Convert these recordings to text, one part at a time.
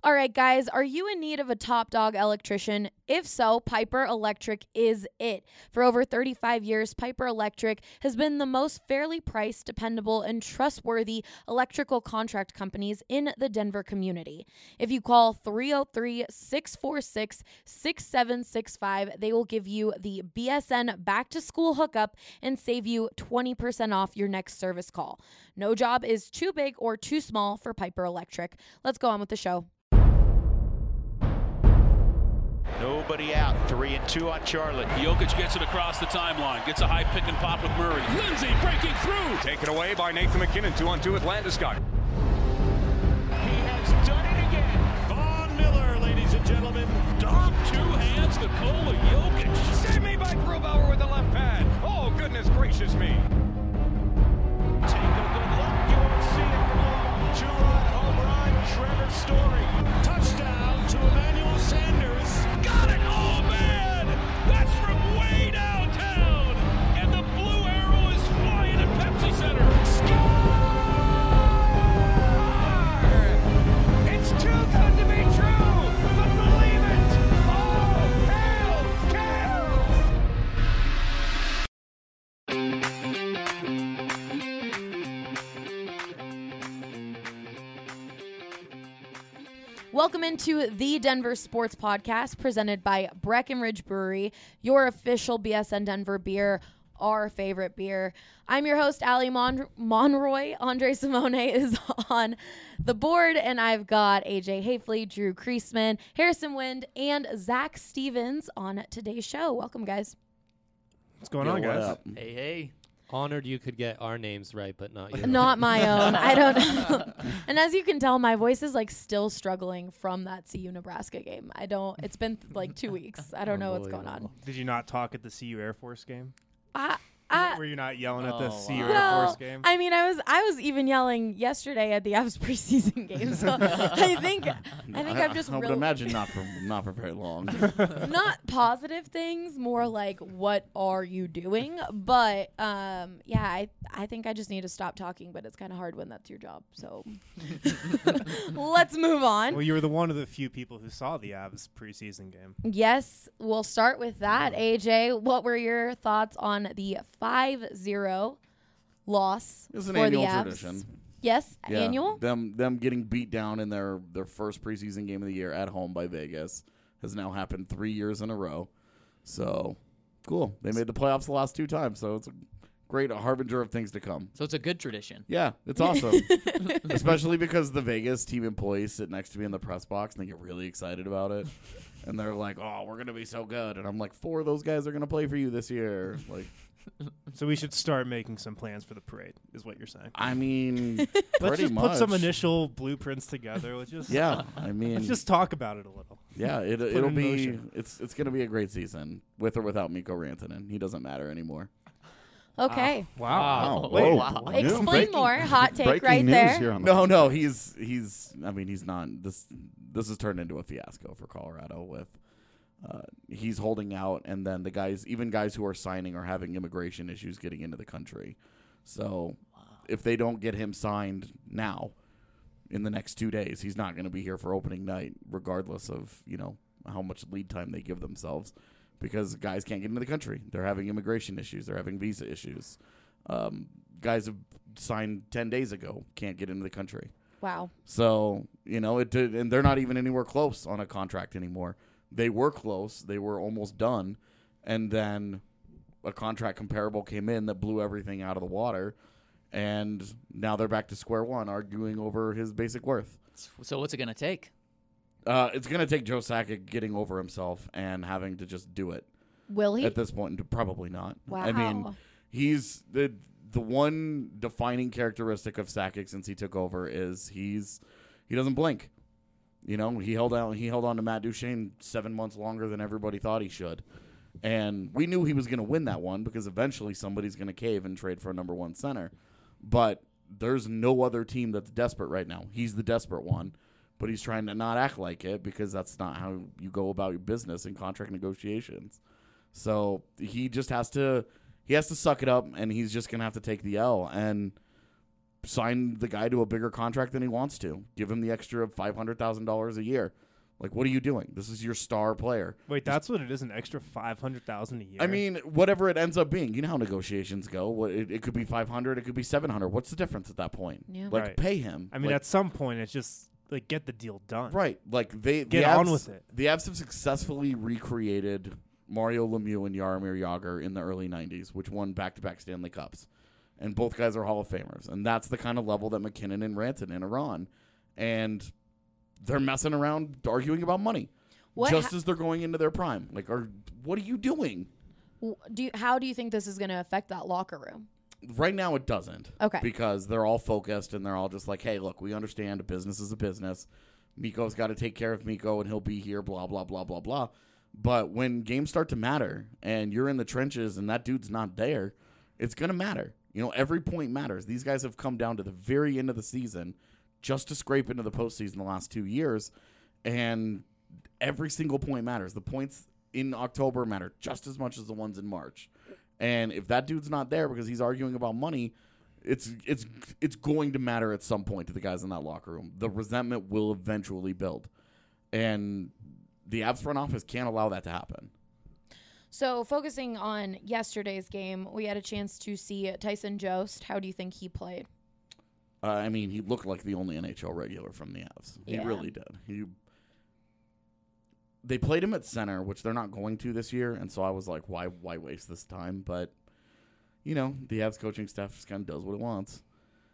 All right, guys, are you in need of a top dog electrician? If so, Piper Electric is it. For over 35 years, Piper Electric has been the most fairly priced, dependable, and trustworthy electrical contract companies in the Denver community. If you call 303-646-6765, they will give you the BSN back-to-school hookup and save you 20% off your next service call. No job is too big or too small for Piper Electric. Let's go on with the show. Nobody out. 3-2 on Charlotte. Jokic gets it across the timeline. Gets a high pick and pop with Murray. Lindsay breaking through. Taken away by Nathan McKinnon. 2-on-2 with Landeskog. He has done it again. Von Miller, ladies and gentlemen. Dom, two hands, Nikola Jokic. Save me by Grubauer with the left pad. Oh, goodness gracious me. Take a good look. You won't see it for long. Two-run home run. Trevor Story. Touchdown to Emmanuel Sanders. Got it! Oh, man! That's from way downtown! And the blue arrow is flying at Pepsi Center. Score! It's too good to be true, but believe it. Oh, hail, Welcome into the Denver Sports Podcast presented by Breckenridge Brewery, your official BSN Denver beer, our favorite beer. I'm your host, Allie Monroy. Andre Simone is on the board, and I've got AJ Hafley, Drew Kreisman, Harrison Wind, and Zach Stevens on today's show. Welcome, guys. What's going on, guys? Hey. Honored you could get our names right, but not yours. Not my own. I don't know. And as you can tell, my voice is like still struggling from that CU Nebraska game. It's been like 2 weeks. I don't know what's going on. Did you not talk at the CU Air Force game? Were you not yelling at the CU Air Force game? I mean, I was even yelling yesterday at the Avs preseason game. So I think I've just I would imagine not for very long. not positive things, more like what are you doing? But I think I just need to stop talking. But it's kind of hard when that's your job. So let's move on. Well, you were one of the few people who saw the Avs preseason game. Yes, we'll start with that. AJ, what were your thoughts on the 5-0 loss It's an for the annual Avs? tradition. Yes, Yeah, annual. Them getting beat down in their first preseason game of the year at home by Vegas has now happened 3 years in a row. So cool. They made the playoffs the last 2 times, so it's a great harbinger of things to come. So it's a good tradition. Yeah, it's awesome. Especially because the Vegas team employees sit next to me in the press box and they get really excited about it. And they're like, "Oh, we're gonna be so good," and I'm like, 4 of those guys are gonna play for you this year." Like, so we should start making some plans for the parade, is what you're saying. I mean, let's just much. put some initial blueprints together. Let's just let's just talk about it a little. Yeah, it'll be it's gonna be a great season with or without Mikko Rantanen. He doesn't matter anime. Okay. Wow. Whoa. Wow. Explain more. Hot take right there. No, he's I mean, he's not this has turned into a fiasco for Colorado with he's holding out, and then the guys who are signing are having immigration issues getting into the country. So if they don't get him signed now in the next 2 days, he's not going to be here for opening night regardless of, how much lead time they give themselves. Because guys can't get into the country. They're having immigration issues. They're having visa issues. Guys have signed 10 days ago can't get into the country. Wow. So, and they're not even anywhere close on a contract anymore. They were close. They were almost done. And then a contract comparable came in that blew everything out of the water. And now they're back to square one, arguing over his basic worth. So what's it going to take? It's going to take Joe Sakic getting over himself and having to just do it. Will he? At this point, probably not. Wow. I mean, he's the one defining characteristic of Sakic since he took over is he doesn't blink. He held on to Matt Duchene 7 months longer than everybody thought he should. And we knew he was going to win that one because eventually somebody's going to cave and trade for a number 1 center. But there's no other team that's desperate right now. He's the desperate one. But he's trying to not act like it because that's not how you go about your business in contract negotiations. So he just has to suck it up, and he's just going to have to take the L. And sign the guy to a bigger contract than he wants to. Give him the extra $500,000 a year. Like, what are you doing? This is your star player. Wait, that's what it is, an extra $500,000 a year? I mean, whatever it ends up being. You know how negotiations go. It could be $500, it could be $700. What's the difference at that point? Yeah. Like, Right. pay him. I mean, like, at some point, it's just, like, get the deal done. right. Like, Get the on Avs- with it. The Avs have successfully recreated Mario Lemieux and Jaromir Jagr in the early 90s, which won back-to-back Stanley Cups. And both guys are Hall of Famers. And that's the kind of level that McKinnon and Rantanen are on. And they're messing around arguing about money. Just as they're going into their prime. Like, what are you doing? How do you think this is going to affect that locker room? Right now it doesn't. Okay. Because they're all focused and they're all just like, hey, look, we understand a business is a business. Mikko's got to take care of Mikko and he'll be here, blah, blah, blah, blah, blah. But when games start to matter and you're in the trenches and that dude's not there, it's going to matter. You know, every point matters. These guys have come down to the very end of the season just to scrape into the postseason the last 2 years, and every single point matters. The points in October matter just as much as the ones in March. And if that dude's not there because he's arguing about money, it's going to matter at some point to the guys in that locker room. The resentment will eventually build. And the Avs front office can't allow that to happen. So focusing on yesterday's game, we had a chance to see Tyson Jost. How do you think he played? I mean, he looked like the only NHL regular from the Avs. He really did. They played him at center, which they're not going to this year, and so I was like, why waste this time? But, you know, the Avs coaching staff just kind of does what it wants.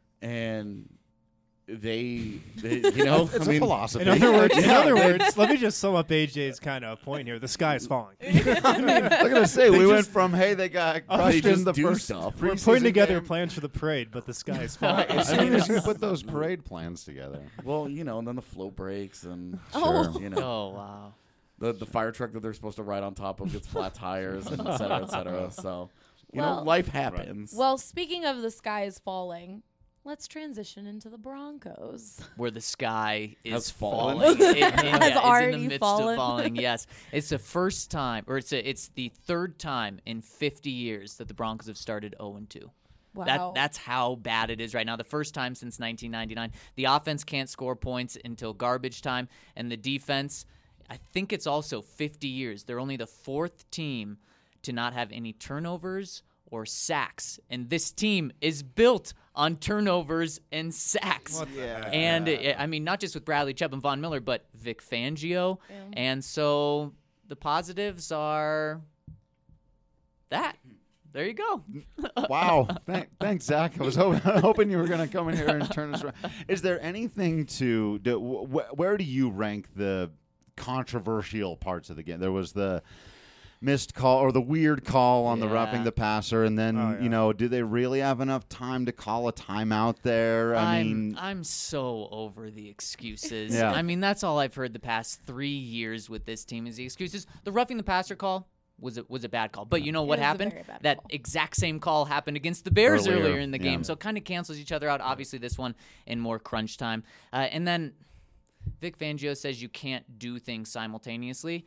And they you know, it's a philosophy. In other words, let me just sum up AJ's kind of point here. The sky is falling. I mean, look at us say we went from they got crushed in the first stuff. We're putting together plans for the parade, but the sky is falling. As soon as you put those parade plans together. Well, you know, and then the float breaks and Oh. you know. Oh, wow. The fire truck that they're supposed to ride on top of gets flat tires, and et cetera, et cetera. So, you know, life happens. Well, speaking of the sky is falling, let's transition into the Broncos. Where the sky is Has fallen. falling. Has it's already in the midst fallen. of falling, yes. It's the first time, or it's the third time in 50 years that the Broncos have started 0-2. Wow. That's how bad it is right now. The first time since 1999. The offense can't score points until garbage time, and the defense, I think it's also 50 years. They're only the fourth team to not have any turnovers or sacks. And this team is built on turnovers and sacks. And, I mean, not just with Bradley Chubb and Von Miller, but Vic Fangio. Yeah. And so the positives are that. There you go. Wow. Thanks, Zach. I was hoping you were going to come in here and turn this around. Is there anything where do you rank the controversial parts of the game? There was the missed call or the weird call on the roughing the passer, and then you know, do they really have enough time to call a timeout there? I'm so over the excuses. Yeah. I mean, that's all I've heard the past 3 years with this team is the excuses. The roughing the passer call was a bad call, but you know what was a happened? very bad That call. exact same call happened against the Bears Earlier, earlier in the game, yeah. so it kind of cancels each other out. Obviously, this one in more crunch time, and then Vic Fangio says you can't do things simultaneously.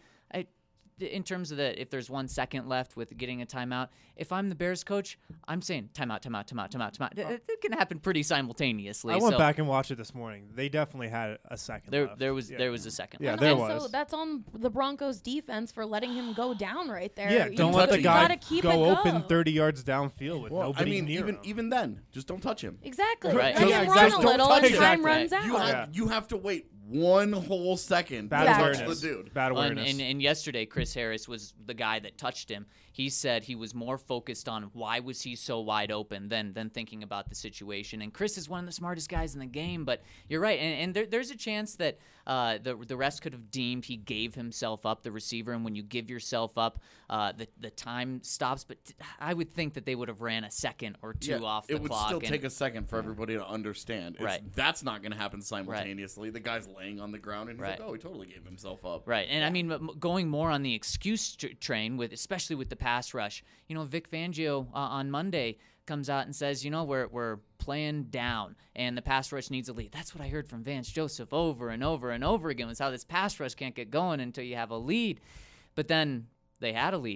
In terms of if there's 1 second left with getting a timeout, if I'm the Bears coach, I'm saying timeout. It can happen pretty simultaneously. I went back and watched it this morning. They definitely had a second left. There was a second. Yeah, left. there and was. So that's on the Broncos defense for letting him go down right there. Yeah, don't let the you guy gotta keep go it open 30 yards downfield with Well, nobody I mean, near him. even then, just don't touch him. Exactly. Right. Let Yeah, him exactly. run a Just little don't and touch time him. runs out. You have to wait 1 whole second Bad to touch awareness. the dude. Bad And, awareness. and yesterday, Chris Harris was the guy that touched him. He said he was more focused on why was he so wide open than thinking about the situation. And Chris is one of the smartest guys in the game, but you're right. And there's a chance that the rest could have deemed he gave himself up, the receiver. And when you give yourself up, the time stops. But I would think that they would have ran a second or two off the it would clock. still take a second for everybody to understand. That's not going to happen simultaneously. The guy's laying on the ground and he's like, oh, he totally gave himself up. Right, and I mean, going more on the excuse train, especially with the pass rush. You know, Vic Fangio on Monday comes out and says, you know, we're playing down and the pass rush needs a lead. That's what I heard from Vance Joseph over and over and over again, was how this pass rush can't get going until you have a lead. But then they had a lead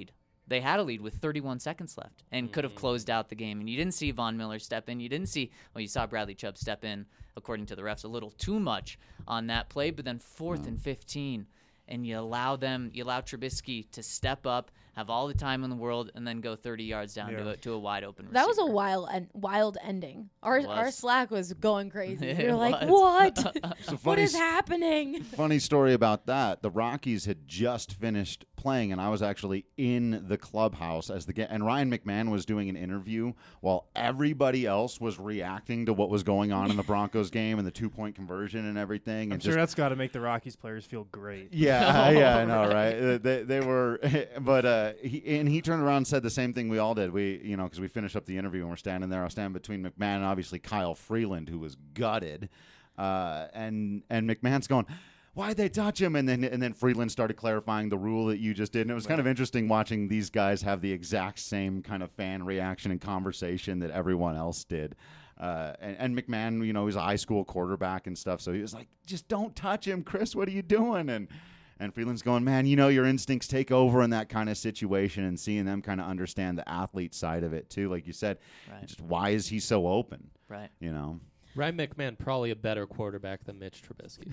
They had a lead with 31 seconds left and could have closed out the game. And you didn't see Von Miller step in. You saw Bradley Chubb step in, according to the refs, a little too much on that play. But then 4th and 15, and you allow Trubisky to step up, have all the time in the world, and then go 30 yards down to a wide open receiver. That was a wild ending. Our Slack was going crazy. It You're like, was. what? What is happening? Funny story about that. The Rockies had just finished playing, and I was actually in the clubhouse and Ryan McMahon was doing an interview while everybody else was reacting to what was going on in the Broncos game and the 2-point conversion and everything. I'm sure that's got to make the Rockies players feel great. Yeah, I know, right? They were, but he turned around and said the same thing we all did. Because we finished up the interview and we're standing there. I was standing between McMahon and obviously Kyle Freeland, who was gutted, and McMahon's going, why'd they touch him? And then Freeland started clarifying the rule that you just did. And it was kind of interesting watching these guys have the exact same kind of fan reaction and conversation that everyone else did. And McMahon, he's a high school quarterback and stuff. So he was like, just don't touch him, Chris. What are you doing? And Freeland's going, man, your instincts take over in that kind of situation, and seeing them kind of understand the athlete side of it too. Like you said, just why is he so open? Right. Ryan McMahon, probably a better quarterback than Mitch Trubisky.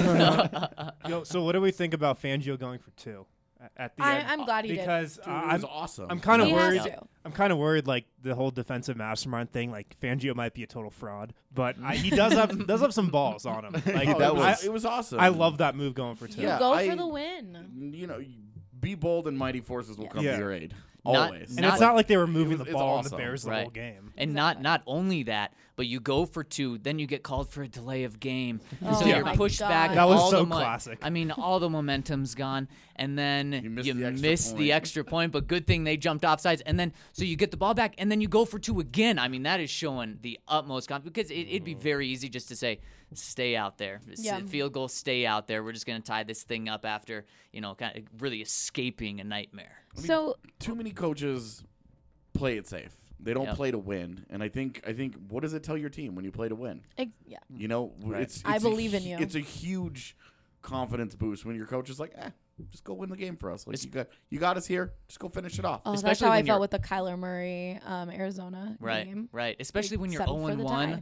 So what do we think about Fangio going for 2 at the end? I'm glad he did. Because Dude, it was awesome. I'm kind of He worried. has to. I'm kind of worried, like the whole defensive mastermind thing. Like Fangio might be a total fraud, but he does have some balls on him. Like it was awesome. I love that move going for 2. Yeah, Go for the win. Be bold and mighty forces will come to your aid. Not- Always. And it's not like they were moving the it's ball on awesome. the Bears the whole game. And not only that, but you go for 2, then you get called for a delay of game. Oh So my you're pushed God. back. That was all so the classic. I mean, all the momentum's gone, and then you miss miss the the extra extra point. point. But good thing they jumped offsides, and then so you get the ball back, and then you go for 2 again. I mean, that is showing the utmost confidence, because it'd be very easy just to say, stay out there. Yeah. Field goal, stay out there. We're just going to tie this thing up after, kind of really escaping a nightmare. So too many coaches play it safe. They don't play to win, and I think what does it tell your team when you play to win? yeah. It's I believe in you. It's a huge confidence boost when your coach is like, just go win the game for us. Like you got us here. Just go finish it off. Oh, that's Especially how I when felt you're- with the Kyler Murray Arizona game. Right. Especially when you're settled for the 0-1,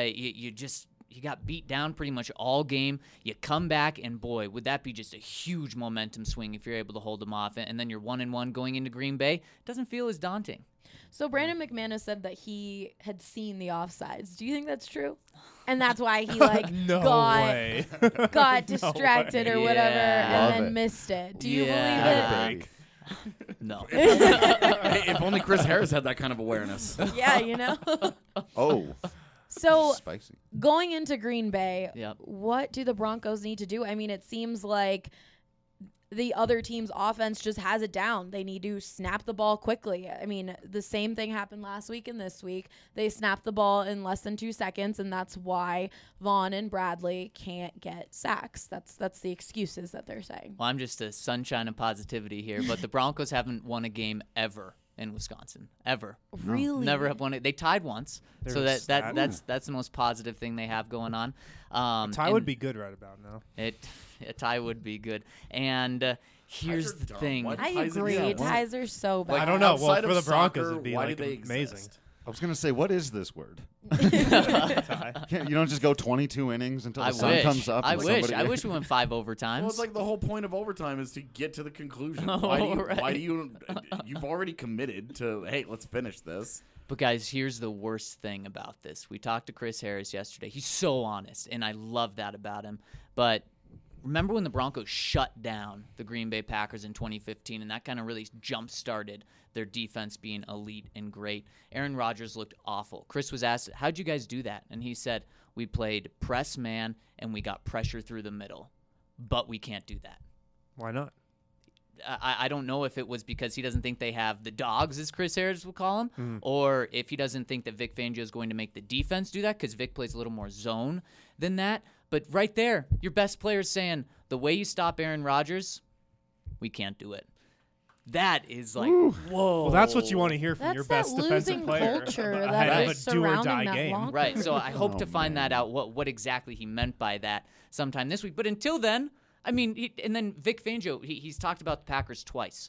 you got beat down pretty much all game. You come back, and boy, would that be just a huge momentum swing if you're able to hold them off. And then you're 1-1 going into Green Bay. It doesn't feel as daunting. So Brandon McManus said that he had seen the offsides. Do you think that's true? And that's why he got distracted or whatever Yeah. and then missed it. Do you Yeah. believe it? No. Hey, if only Chris Harris had that kind of awareness. Yeah, Oh, So spicy. going into Green Bay, Yep. what do the Broncos need to do? I mean, it seems like the other team's offense just has it down. They need to snap the ball quickly. I mean, the same thing happened last week and this week. They snapped the ball in less than 2 seconds, and that's why Vaughn and Bradley can't get sacks. That's the excuses that they're saying. Well, I'm just a sunshine of positivity here, but the Broncos haven't won a game ever in Wisconsin, ever. Really? Never have won it. They tied once, so There's that. that's the most positive thing they have going on. Tie and would be good right about now. A tie would be good. And here's Ties are the dumb. thing. Why do I ties agree. exist? Ties are so bad. I don't know. Well, Outside for of the Broncos, soccer, it'd be why like do they amazing. exist? I was going to say, what is this word? Tie. You don't just go 22 innings until the I sun wish. comes up. I and wish. somebody- I wish we went 5 overtimes. Well, it's like the whole point of overtime is to get to the conclusion. Oh, Why do you've already committed to, hey, let's finish this. But guys, here's the worst thing about this. We talked to Chris Harris yesterday. He's so honest, and I love that about him. But remember when the Broncos shut down the Green Bay Packers in 2015, and that kind of really jump-started their defense being elite and great. Aaron Rodgers looked awful. Chris was asked, how'd you guys do that? And he said, we played press man, and we got pressure through the middle. But we can't do that. Why not? I don't know if it was because he doesn't think they have the dogs, as Chris Harris would call them, or if he doesn't think that Vic Fangio is going to make the defense do that, because Vic plays a little more zone than that. But right there, your best player is saying, the way you stop Aaron Rodgers, we can't do it. That is like, whoa. Well, that's what you want to hear from That's your that best defensive losing player culture ahead that of is a do or surrounding die that game. locker Right, so I hope Oh, to find man. that out, what exactly he meant by that sometime this week. But until then, I mean, and then Vic Fangio, he's talked about the Packers twice.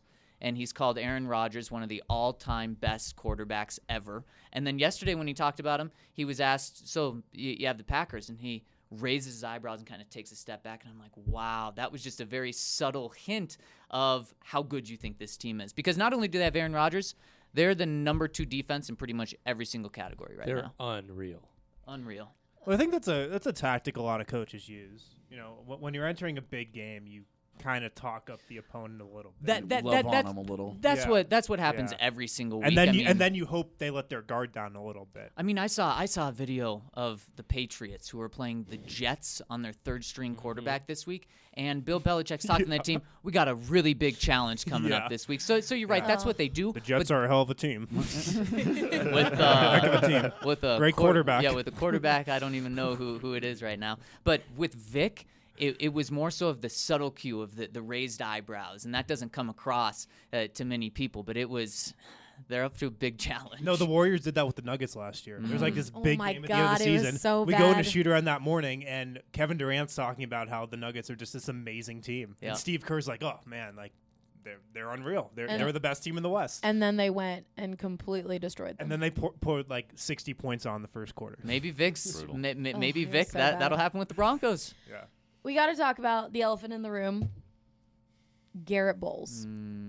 and he's called Aaron Rodgers one of the all-time best quarterbacks ever. And then yesterday when he talked about him, he was asked, so you have the Packers, and he raises his eyebrows and kind of takes a step back, and I'm like, wow, that was just a very subtle hint of how good you think this team is. Because not only do they have Aaron Rodgers, they're the number 2 defense in pretty much every single category right They're now. unreal. Unreal. Well, I think that's a tactic a lot of coaches use. You know, when you're entering a big game, you kind of talk up the opponent a little bit. Love on them a little. That's Yeah. what happens Yeah. every single week. and then I mean, then you hope they let their guard down a little bit. I mean, I saw a video of the Patriots who were playing the Jets on their 3rd string quarterback this week, and Bill Belichick's talking to that team. We got a really big challenge coming Yeah. up this week. So you're right. That's what they do. The Jets are a hell of a team. with Heck of a team. with a Great quarterback. Yeah, with a quarterback, I don't even know who it is right now. But with Vic, it was more so of the subtle cue of the raised eyebrows, and that doesn't come across to many people. But they're up to a big challenge. No, the Warriors did that with the Nuggets last year. There was like this Oh big my game at the end of God, the it was season. so we go into bad. shoot around that morning, and Kevin Durant's talking about how the Nuggets are just this amazing team. Yeah. And Steve Kerr's like, oh, man, like they're unreal. And- They're the best team in the West. And then they went and completely destroyed them. And then they poured like 60 points on the first quarter. Maybe Vic's. Brutal. Maybe it was Vic. so That'll bad. happen with the Broncos. Yeah. We got to talk about the elephant in the room, Garrett Bowles.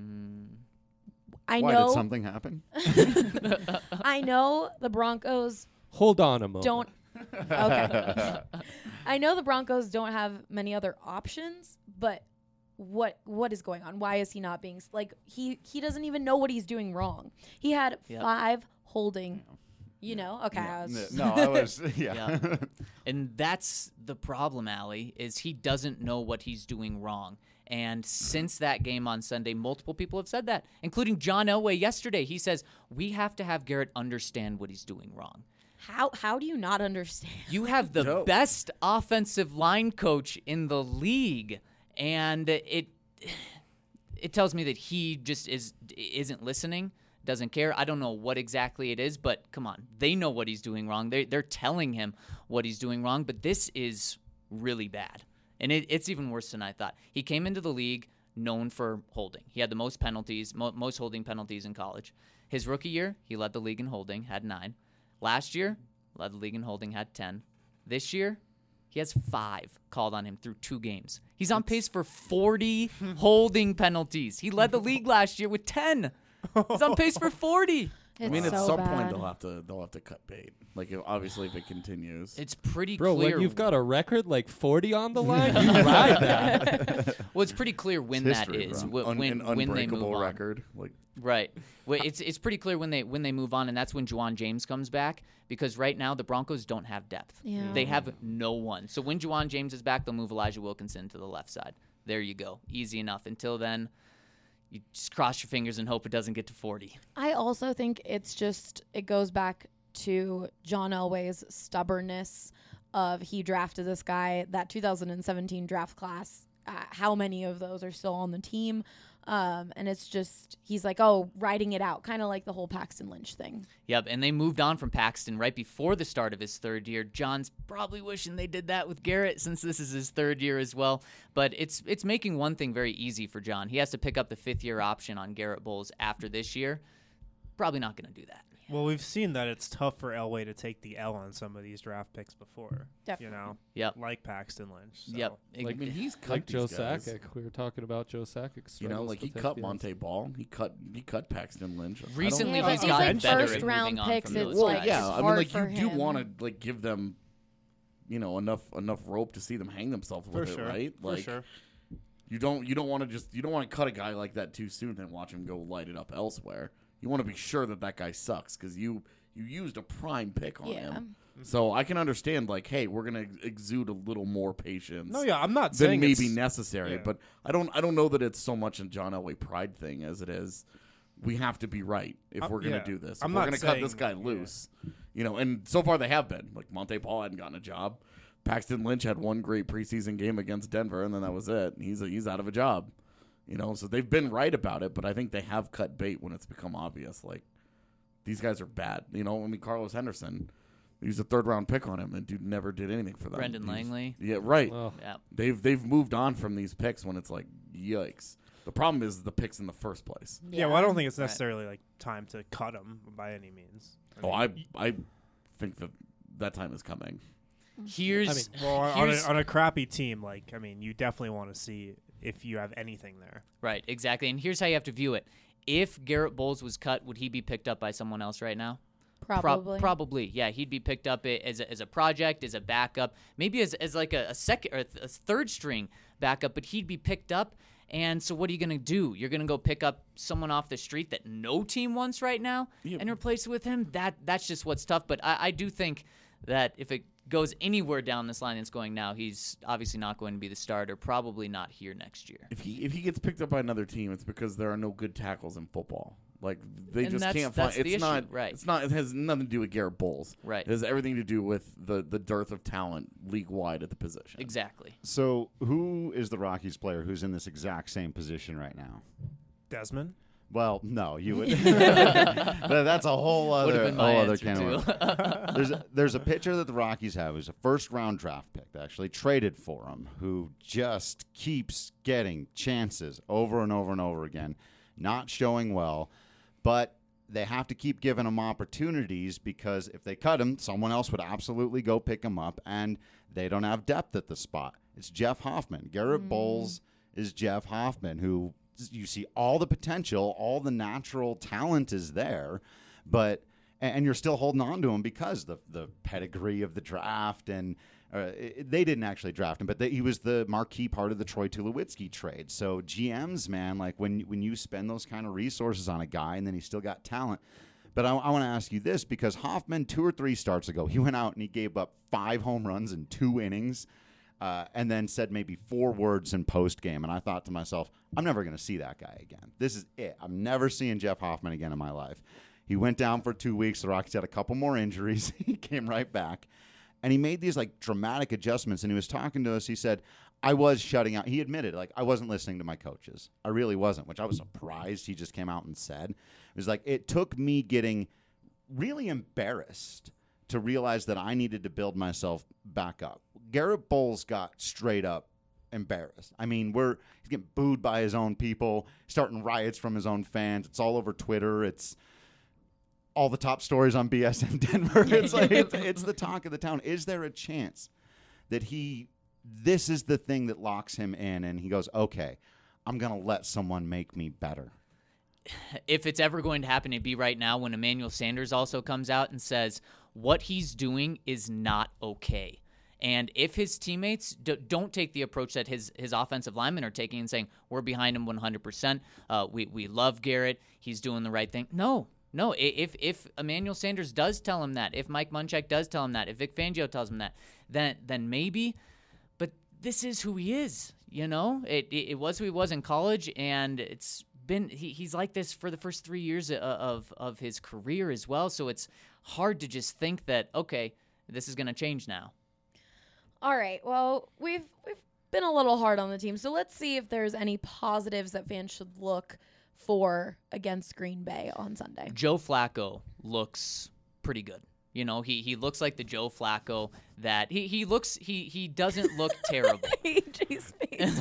I Why know. did something happen? I know the Broncos Hold on a moment. don't. Okay. I know the Broncos don't have many other options, but what is going on? Why is he not being he doesn't even know what he's doing wrong. He had Yep. 5 holding. You know, okay. I was, No, I was. Yeah. Yeah. And that's the problem, Allie, is he doesn't know what he's doing wrong. And since that game on Sunday, multiple people have said that, including John Elway yesterday. He says, we have to have Garrett understand what he's doing wrong. how do you not understand? You have the No. best offensive line coach in the league, and it tells me that he just isn't listening, doesn't care. I don't know what exactly it is, but come on. They know what he's doing wrong. They're telling him what he's doing wrong, but this is really bad. And it's even worse than I thought. He came into the league known for holding. He had the most penalties, most holding penalties in college. His rookie year, he led the league in holding, had 9. Last year, led the league in holding, had 10. This year, he has 5 called on him through 2 games. He's on pace for 40 holding penalties. He led the league last year with 10. He's on pace for 40. I mean, It's at so some bad. point they'll have to cut bait. Like obviously if it continues. It's pretty Bro, clear. when you've got a record like 40 on the line, you ride that. Well, it's pretty clear when that history, is. bro. When An they move unbreakable on. record. Like Right. Well, it's pretty clear when they move on, and that's when Juwan James comes back, because right now the Broncos don't have depth. Yeah. They have no one. So when Juwan James is back, they'll move Elijah Wilkinson to the left side. There you go. Easy enough. Until then, you just cross your fingers and hope it doesn't get to 40. I also think it goes back to John Elway's stubbornness of he drafted this guy, that 2017 draft class. How many of those are still on the team? And it's just, he's like, writing it out, kind of like the whole Paxton Lynch thing. Yep, and they moved on from Paxton right before the start of his 3rd year. John's probably wishing they did that with Garrett since this is his 3rd year as well. But it's making one thing very easy for John. He has to pick up the 5th-year option on Garrett Bowles after this year. Probably not going to do that. Well, we've seen that it's tough for Elway to take the L on some of these draft picks before. Definitely. You know, Yep. like Paxton Lynch. So. Yep. I mean, he's cut Like these Joe guys. Sakic. We were talking about Joe Sakic. You know, like he cut Monte Ball. He cut Paxton Lynch. I don't- Recently, Yeah, he's but gotten these, better first at round moving on picks, from it's those Well, like, guys. yeah, it's I mean, hard like for you do him. want to like give them, enough rope to see them hang themselves For with it, sure. right? Like, For sure. You don't want to cut a guy like that too soon and watch him go light it up elsewhere. You want to be sure that guy sucks because you used a prime pick on Yeah. him. So I can understand, like, hey, we're gonna exude a little more patience. No, yeah, I'm not than saying maybe it's- necessary, yeah. but I don't know that it's so much a John Elway pride thing as it is. We have to be right if we're gonna yeah. do this. If I'm we're not gonna cut this saying- guy yeah. loose, and so far they have been. Like Monte Paul hadn't gotten a job. Paxton Lynch had one great preseason game against Denver, and then that was it. He's out of a job. So they've been right about it, but I think they have cut bait when it's become obvious. Like these guys are bad. Carlos Henderson, he was a 3rd-round pick on him, and dude never did anything for them. Brendan Langley. Yeah, right. Oh. Yeah. They've moved on from these picks when it's like, yikes. The problem is the picks in the first place. Yeah, well, I don't think it's necessarily like time to cut him by any means. I think that time is coming. Here's on a crappy team, like, I mean, you definitely want to see if you have anything there. Right, exactly. And here's how you have to view it. If Garrett Bowles was cut, would he be picked up by someone else right now? Probably. Probably, yeah. He'd be picked up as a project, as a backup, maybe as like a second or a third string backup, but he'd be picked up. And so what are you going to do? You're going to go pick up someone off the street that no team wants right now and replace it with him? That's just what's tough. But I do think that if it goes anywhere down this line it's going now, he's obviously not going to be the starter, probably not here next year. If he gets picked up by another team, it's because there are no good tackles in football. Like they just can't find. It's not right. It's not. It has nothing to do with Garrett Bowles. Right. It has everything to do with the dearth of talent league wide at the position. Exactly. So who is the Rockies player who's in this exact same position right now? Desmond. Well, no, you would. But that's a whole other can of. There's a pitcher that the Rockies have who's a first-round draft pick. They actually traded for him, who just keeps getting chances over and over and over again, not showing well, but they have to keep giving him opportunities because if they cut him, someone else would absolutely go pick him up, and they don't have depth at the spot. It's Jeff Hoffman. Garrett Bowles is Jeff Hoffman, who you see all the potential, all the natural talent is there, and you're still holding on to him because the pedigree of the draft, and they didn't actually draft him, but he was the marquee part of the Troy Tulowitzki trade. So GMs, man, like when you spend those kind of resources on a guy and then he's still got talent. But I want to ask you this, because Hoffman 2 or 3 starts ago, he went out and he gave up 5 home runs in 2 innings. And then said maybe 4 words in post-game. And I thought to myself, I'm never going to see that guy again. This is it. I'm never seeing Jeff Hoffman again in my life. He went down for 2 weeks. The Rockies had a couple more injuries. He came right back. And he made these, like, dramatic adjustments. And he was talking to us. He said, I was shutting out. He admitted, like, I wasn't listening to my coaches. I really wasn't, which I was surprised he just came out and said. It was like, it took me getting really embarrassed to realize that I needed to build myself back up. Garrett Bowles got straight up embarrassed. I mean, he's getting booed by his own people, starting riots from his own fans. It's all over Twitter. It's all the top stories on BSN Denver. It's like it's the talk of the town. Is there a chance that this is the thing that locks him in, and he goes, okay, I'm going to let someone make me better? If it's ever going to happen, it'd be right now when Emmanuel Sanders also comes out and says what he's doing is not okay. And if his teammates don't take the approach that his offensive linemen are taking and saying, we're behind him 100%, we love Garrett, he's doing the right thing. No. If Emmanuel Sanders does tell him that, if Mike Munchak does tell him that, if Vic Fangio tells him that, then maybe. But this is who he is, you know? It was who he was in college, and it's been he's like this for the first 3 years of his career as well. So it's hard to just think that, okay, this is going to change now. All right. Well, we've been a little hard on the team, so let's see if there's any positives that fans should look for against Green Bay on Sunday. Joe Flacco looks pretty good. You know, he looks like the Joe Flacco that he doesn't look terrible. AJ's face.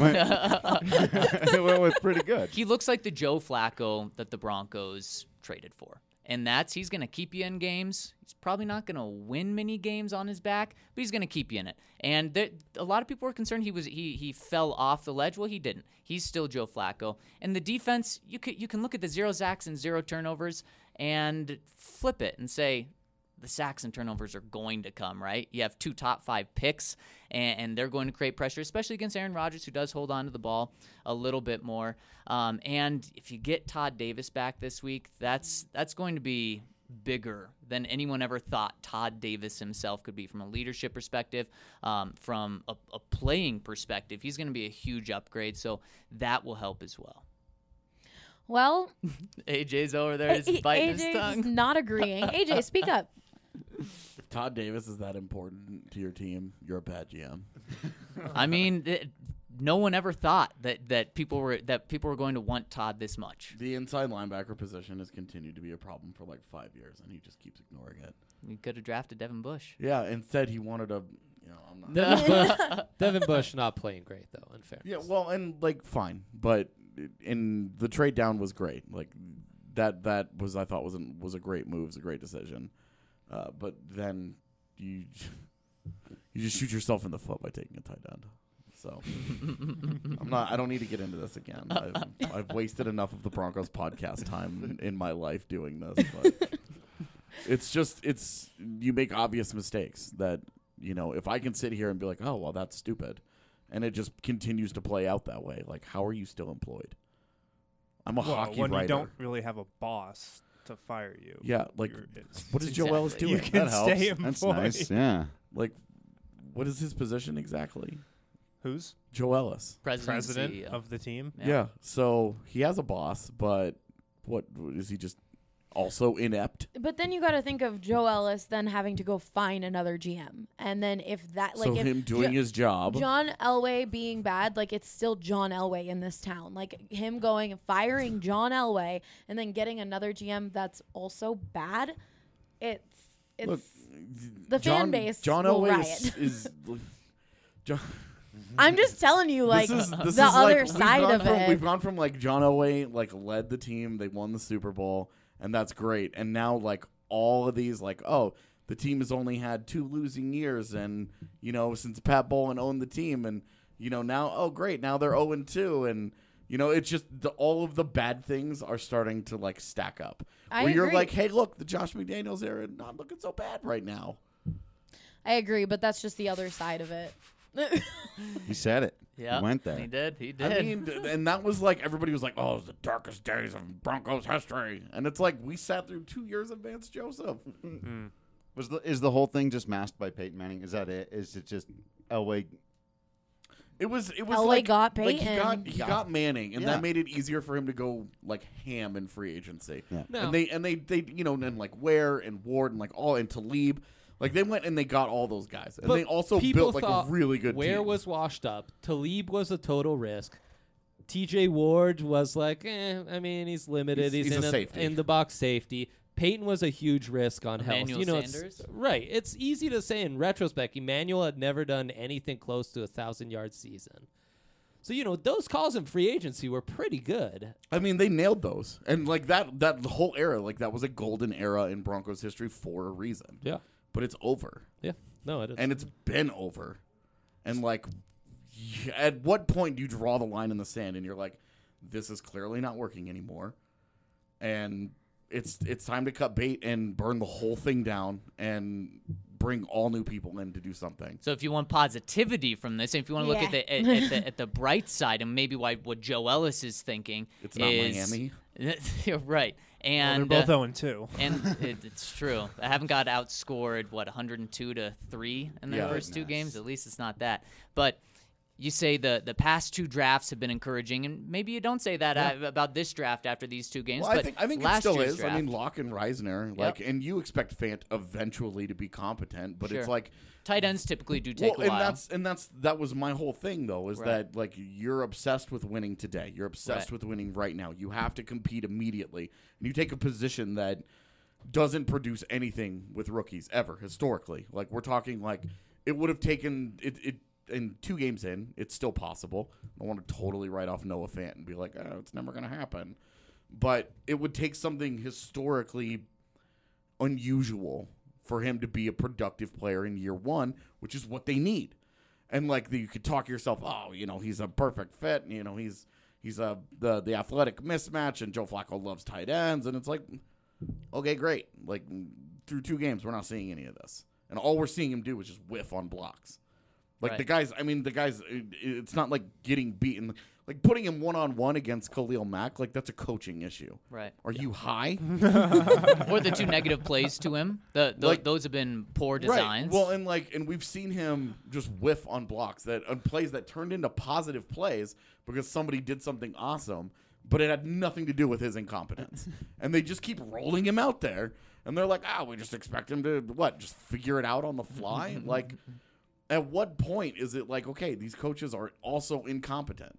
It went with pretty good. He looks like the Joe Flacco that the Broncos traded for. And he's going to keep you in games. He's probably not going to win many games on his back, but he's going to keep you in it. And a lot of people were concerned he fell off the ledge. Well, he didn't. He's still Joe Flacco. And the defense, you can look at the 0 sacks and 0 turnovers and flip it and say the sacks and turnovers are going to come, right? You have 2 top 5 picks, and they're going to create pressure, especially against Aaron Rodgers, who does hold on to the ball a little bit more. And if you get Todd Davis back this week, that's going to be bigger than anyone ever thought Todd Davis himself could be from a leadership perspective, from a playing perspective. He's going to be a huge upgrade, so that will help as well. Well, AJ's over there is biting his tongue. AJ's not agreeing. AJ, speak up. If Todd Davis is that important to your team, you're a bad GM. I mean, no one ever thought that people were going to want Todd this much. The inside linebacker position has continued to be a problem for like 5 years, and he just keeps ignoring it. He could have drafted Devin Bush. Yeah, instead he wanted a. I'm not. Devin Bush not playing great though. In fairness. Yeah, well, and like fine, but and the trade down was great. Like that was I thought was a great move, was a great decision. But then you just shoot yourself in the foot by taking a tight end. So I don't need to get into this again. I've wasted enough of the Broncos podcast time in my life doing this. But it's you make obvious mistakes that, if I can sit here and be like, oh, well, that's stupid, and it just continues to play out that way. Like, how are you still employed? I'm a hockey when writer. You don't really have a boss to fire you. Yeah, like, what is Joe Exactly. Ellis doing? You can That helps. stay employed. That's nice. Yeah. Like, what is his position exactly? Who's Joe Ellis. President CEO. of the team? Yeah. So he has a boss, but what is he just also inept? But then you got to think of Joe Ellis then having to go find another GM, and then if that like So if him doing his job. John Elway being bad, like it's still John Elway in this town. Like him going and firing John Elway and then getting another GM that's also bad. It's Look, the fan base John will Elway riot. is John. I'm just telling you, like this the is other like, side of it. We've gone from like John Elway led the team, they won the Super Bowl, and that's great. And now like all of these the team has only had 2 losing years, and since Pat Bowlen owned the team, and now great, now they're 0-2, and it's just all of the bad things are starting to like stack up. I where you're agree. like, hey, look, the Josh McDaniels era not looking so bad right now. I agree, but that's just the other side of it. He said it. Yeah, He went there. He did. I mean, and that was like everybody was like, "Oh, it's the darkest days of Broncos history," and it's like we sat through 2 years of Vance Joseph. Is the whole thing just masked by Peyton Manning? Is that it? Is it just Elway? It was LA like, got like Peyton. he got Manning, and Yeah. that made it easier for him to go like ham in free agency. Yeah. No. And they and like Ware and Ward and like all and Talib, like they went and they got all those guys, and But they also people built like a thought really good Ware team. was washed up. Talib was a total risk. TJ Ward was like, I mean, he's limited. He's in a safety. in the box safety. Peyton was a huge risk on health. Emmanuel It's, Sanders? right. It's easy to say in retrospect. Emmanuel had never done anything close to 1,000-yard season. So, those calls in free agency were pretty good. I mean, they nailed those, and like that whole era, like that was a golden era in Broncos history for a reason. Yeah. But it's over. Yeah. No, it is. And it's been over. And like, at what point do you draw the line in the sand and you're like, this is clearly not working anymore, and it's time to cut bait and burn the whole thing down and bring all new people in to do something. So if you want positivity from this, if you want to look at the the bright side, and maybe what Joe Ellis is thinking, It's not Miami. You're right. And They're both 0-2. and it's true. I haven't got outscored 102-3 in their Yeah. first 2 Goodness. games. At least it's not that. But you say the past 2 drafts have been encouraging, and maybe you don't say that about this draft after these 2 games. Well, but I think it last still year's is. Draft, I mean, Locke and Reisner, like, and you expect Fant eventually to be competent, but Sure. it's like, tight ends typically do take a while. that was my whole thing though, is Right. that like you're obsessed with winning today. You're obsessed Right. with winning right now. You have to compete immediately, and you take a position that doesn't produce anything with rookies ever historically. Like we're talking like it would have taken it in 2 games in. It's still possible. I want to totally write off Noah Fant and be like, oh, it's never going to happen. But it would take something historically unusual for him to be a productive player in year 1, which is what they need. And like you could talk yourself, oh, he's a perfect fit. He's the athletic mismatch, and Joe Flacco loves tight ends, and it's like, okay, great. Like through 2 games, we're not seeing any of this, and all we're seeing him do is just whiff on blocks. Like Right. the guys, it's not like getting beaten. Like putting him one-on-one against Khalil Mack, like that's a coaching issue. Right. Are you high? Or the 2 negative plays to him. Those have been poor designs. Right. Well, and we've seen him just whiff on blocks on plays that turned into positive plays because somebody did something awesome, but it had nothing to do with his incompetence. And they just keep rolling him out there, and they're like, we just expect him to just figure it out on the fly? Like, at what point is it like, okay, these coaches are also incompetent?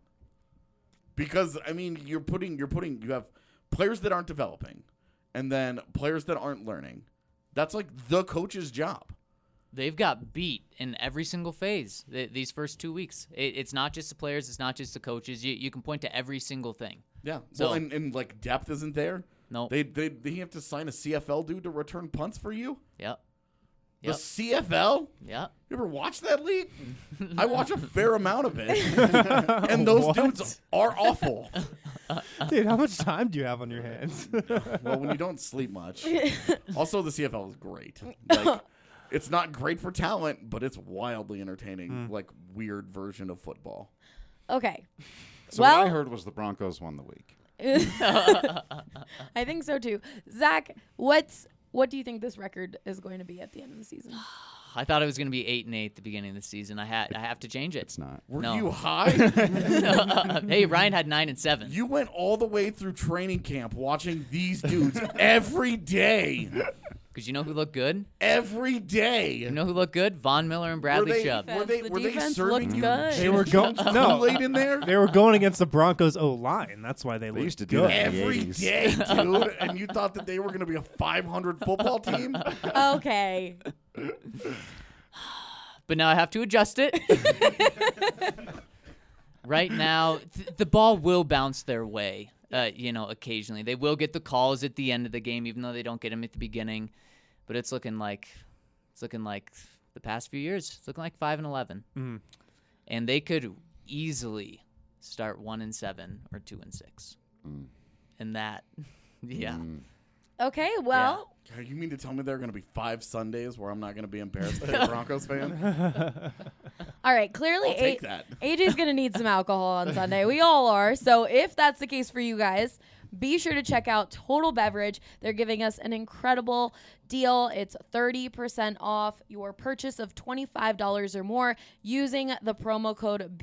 Because I mean, you have players that aren't developing, and then players that aren't learning. That's like the coach's job. they've got beat in every single phase these first 2 weeks. It's not just the players. It's not just the coaches. You can point to every single thing. Yeah. So- Well, and like depth isn't there. No. They have to sign a CFL dude to return punts for you. Yep. The Yep. CFL? Yep. You ever watch that league? I watch a fair amount of it, and those What? dudes are awful. Dude, how much time do you have on your hands? Well, when you don't sleep much. Also, the CFL is great. Like, it's not great for talent, but it's wildly entertaining. Like weird version of football. Okay. So Well- what I heard was the Broncos won the week. I think so too. Zach, what do you think this record is going to be at the end of the season? I thought it was going to be 8-8 at the beginning of the season. I have to change it. It's not. Were No. you high? Hey, Ryan had 9-7. You went all the way through training camp watching these dudes every day. Because you know who looked good? Every day. You know who looked good? Von Miller and Bradley Chubb. Were they The defense serving looked you good. They were going no. Kool-Aid in there? They were going against the Broncos O-line. That's why they They looked used to do good. that. in the Every 80s. day, dude. And you thought that they were going to be a 500 football team? Okay. But now I have to adjust it. Right now, the ball will bounce their way, occasionally. They will get the calls at the end of the game, even though they don't get them at the beginning. But it's looking like the past few years. It's looking like 5-11. Mhm. And they could easily start 1-7 or 2-6. And that, yeah. Okay, well, You mean to tell me there are going to be 5 Sundays where I'm not going to be embarrassed to be a Broncos fan? all right, clearly I'll take that. AJ's going to need some alcohol on Sunday. We all are. So if that's the case for you guys, be sure to check out Total Beverage. They're giving us an incredible deal. It's 30% off your purchase of $25 or more using the promo code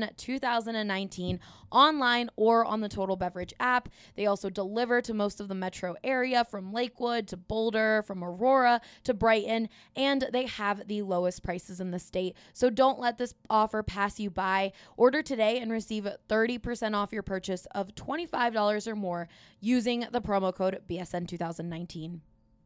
BSN2019 online or on the Total Beverage app. They also deliver to most of the metro area, from Lakewood to Boulder, from Aurora to Brighton, and they have the lowest prices in the state. So don't let this offer pass you by. Order today and receive 30% off your purchase of $25 or more using the promo code BSN2019.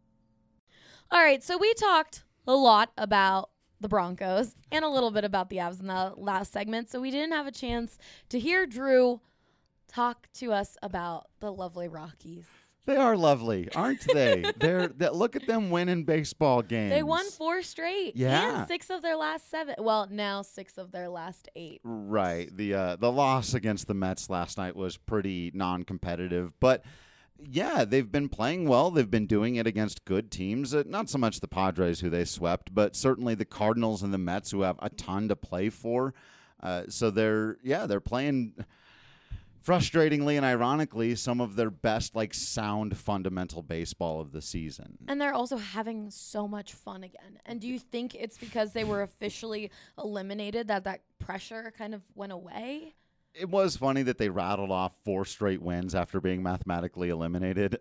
All right, so we talked a lot about the Broncos and a little bit about the Avs in the last segment, so we didn't have a chance to hear Drew talk to us about the lovely Rockies. They are lovely, aren't they? Look at them winning baseball games. They won 4 straight. Yeah. And 6 of their last 7. Well, now 6 of their last 8. Right. The loss against the Mets last night was pretty non-competitive, but yeah, they've been playing well. They've been doing it against good teams. Not so much the Padres, who they swept, but certainly the Cardinals and the Mets, who have a ton to play for. So they're playing, frustratingly and ironically, some of their best, sound fundamental baseball of the season. And they're also having so much fun again. And do you think it's because they were officially eliminated that pressure kind of went away? It was funny that they rattled off 4 straight wins after being mathematically eliminated.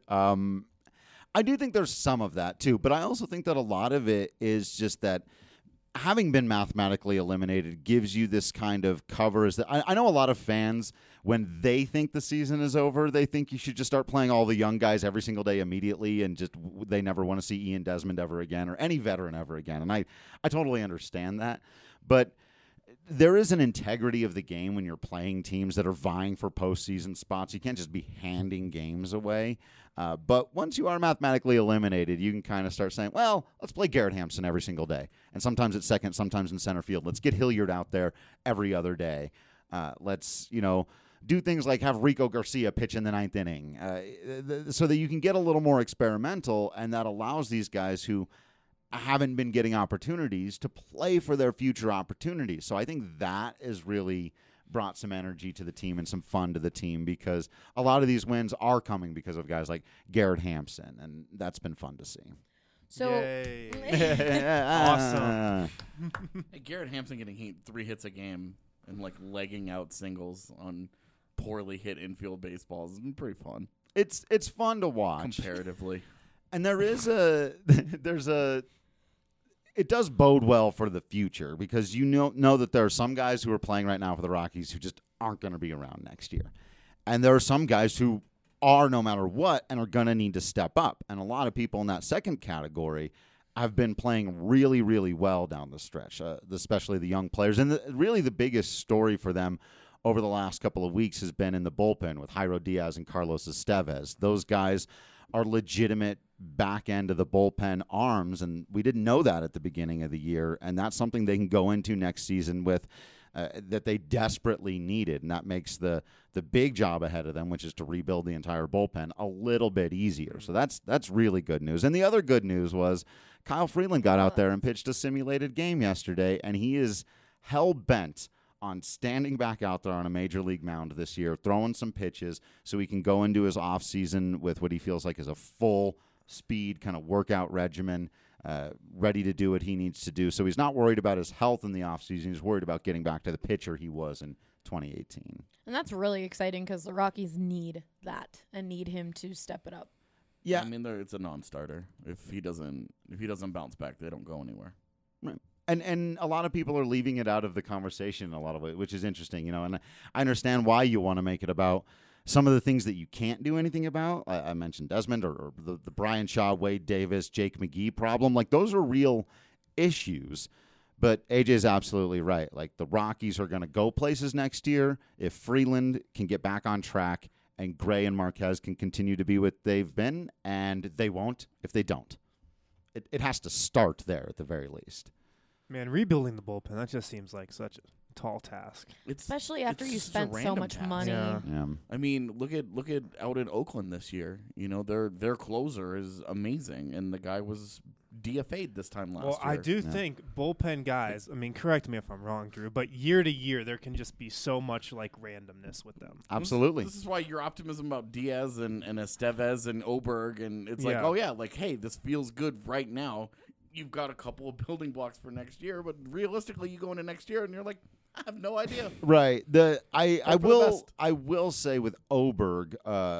I do think there's some of that too, but I also think that a lot of it is just that having been mathematically eliminated gives you this kind of cover. I know a lot of fans, when they think the season is over, they think you should just start playing all the young guys every single day immediately, and just they never want to see Ian Desmond ever again or any veteran ever again. And I totally understand that, but there is an integrity of the game when you're playing teams that are vying for postseason spots. You can't just be handing games away. But once you are mathematically eliminated, you can kind of start saying, well, let's play Garrett Hampson every single day. And sometimes at second, sometimes in center field. Let's get Hilliard out there every other day. Let's, do things like have Rico Garcia pitch in the 9th inning so that you can get a little more experimental, and that allows these guys who haven't been getting opportunities to play for their future opportunities. So I think that has really brought some energy to the team and some fun to the team, because a lot of these wins are coming because of guys like Garrett Hampson, and that's been fun to see. So Yay. Awesome. Hey, Garrett Hampson getting 3 hits a game and legging out singles on poorly hit infield baseballs has been pretty fun. It's fun to watch. Comparatively. And there is it does bode well for the future, because you know that there are some guys who are playing right now for the Rockies who just aren't going to be around next year. And there are some guys who are no matter what and are going to need to step up. And a lot of people in that second category have been playing really, really well down the stretch, especially the young players. And really the biggest story for them over the last couple of weeks has been in the bullpen with Jairo Diaz and Carlos Estevez. Those guys are legitimate back end of the bullpen arms, and we didn't know that at the beginning of the year, and that's something they can go into next season with that they desperately needed, and that makes the big job ahead of them, which is to rebuild the entire bullpen, a little bit easier. So that's really good news. And the other good news was Kyle Freeland got out there and pitched a simulated game yesterday, and he is hell-bent on standing back out there on a major league mound this year, throwing some pitches so he can go into his offseason with what he feels like is a full-speed kind of workout regimen, ready to do what he needs to do. So he's not worried about his health in the offseason. He's worried about getting back to the pitcher he was in 2018. And that's really exciting because the Rockies need that and need him to step it up. Yeah, I mean, it's a non-starter. If he doesn't bounce back, they don't go anywhere. Right. And a lot of people are leaving it out of the conversation in a lot of it, which is interesting, and I understand why you want to make it about some of the things that you can't do anything about. I mentioned Desmond or the Brian Shaw, Wade Davis, Jake McGee problem. Like, those are real issues. But AJ's absolutely right. Like, the Rockies are going to go places next year if Freeland can get back on track and Gray and Marquez can continue to be what they've been, and they won't if they don't. It has to start there at the very least. Man, rebuilding the bullpen, that just seems like such a tall task. Especially after you just a spent so random much task. money. Yeah. I mean, look at out in Oakland this year. You know, their closer is amazing, and the guy was DFA'd this time last year. Well, I do think bullpen guys, I mean, correct me if I'm wrong, Drew, but year to year there can just be so much like randomness with them. Absolutely. This is why your optimism about Diaz and Estevez and Oberg, and it's like, Yeah. oh yeah, like, hey, this feels good right now. You've got a couple of building blocks for next year, but realistically, you go into next year and you're like, I have no idea. Right. I Hope for the best. will say with Oberg,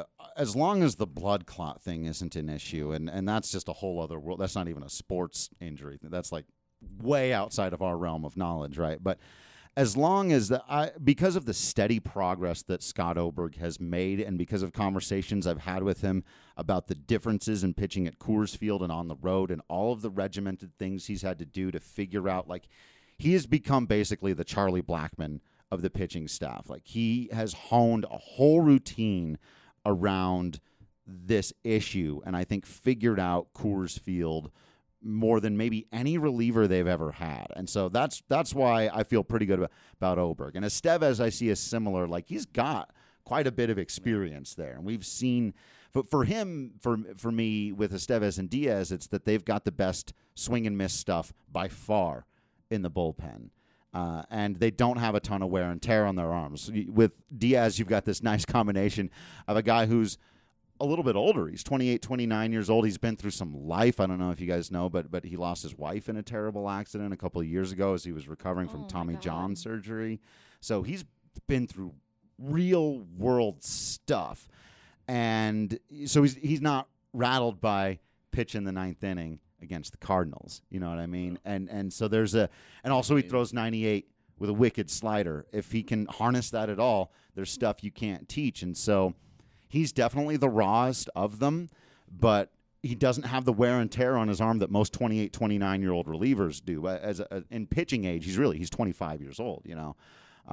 as long as the blood clot thing isn't an issue, and that's just a whole other world. That's not even a sports injury. That's like way outside of our realm of knowledge, right? But as long as because of the steady progress that Scott Oberg has made, and because of conversations I've had with him about the differences in pitching at Coors Field and on the road, and all of the regimented things he's had to do to figure out, like, he has become basically the Charlie Blackmon of the pitching staff. Like, he has honed a whole routine around this issue, and I think figured out Coors Field more than maybe any reliever they've ever had. And so that's why I feel pretty good about Oberg. And Estevez, I see as similar. Like, he's got quite a bit of experience there. And we've seen, for him, for me, with Estevez and Diaz, it's that they've got the best swing and miss stuff by far in the bullpen. And they don't have a ton of wear and tear on their arms. With Diaz, you've got this nice combination of a guy who's a little bit older. He's 28, 29 years old. He's been through some life. I don't know if you guys know, but he lost his wife in a terrible accident a couple of years ago as he was recovering from Tommy John surgery. So he's been through real world stuff. And so he's not rattled by pitch in the ninth inning against the Cardinals. You know what I mean? And so and also he throws 98 with a wicked slider. If he can harness that at all, there's stuff you can't teach. And so he's definitely the rawest of them, but he doesn't have the wear and tear on his arm that most 28, 29-year-old relievers do. In pitching age, he's 25 years old, you know.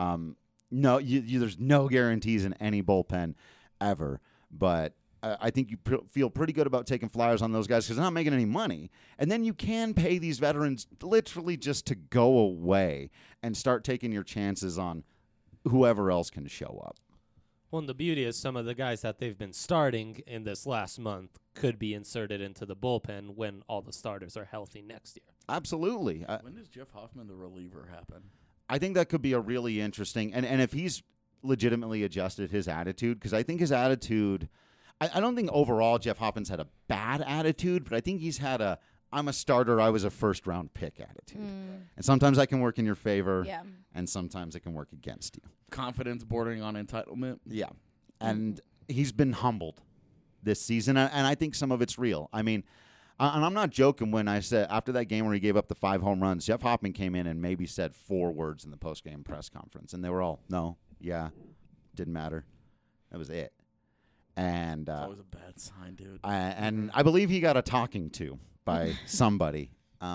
There's no guarantees in any bullpen ever, but I think you feel pretty good about taking flyers on those guys because they're not making any money. And then you can pay these veterans literally just to go away and start taking your chances on whoever else can show up. Well, and the beauty is some of the guys that they've been starting in this last month could be inserted into the bullpen when all the starters are healthy next year. Absolutely. When does Jeff Hoffman, the reliever, happen? I think that could be a really interesting, and if he's legitimately adjusted his attitude, because I think his attitude, I don't think overall Jeff Hoffman's had a bad attitude, but I think he's had I'm a starter, I was a first-round pick attitude. And sometimes that can work in your favor, and sometimes it can work against you. Confidence bordering on entitlement. Yeah. And he's been humbled this season, and I think some of it's real. I mean, and I'm not joking when I said after that game where he gave up the 5 home runs, Jeff Hoffman came in and maybe said 4 words in the post-game press conference, and they were all, no, yeah, didn't matter. That was it. And It's always a bad sign, dude. and I believe he got a talking to by somebody.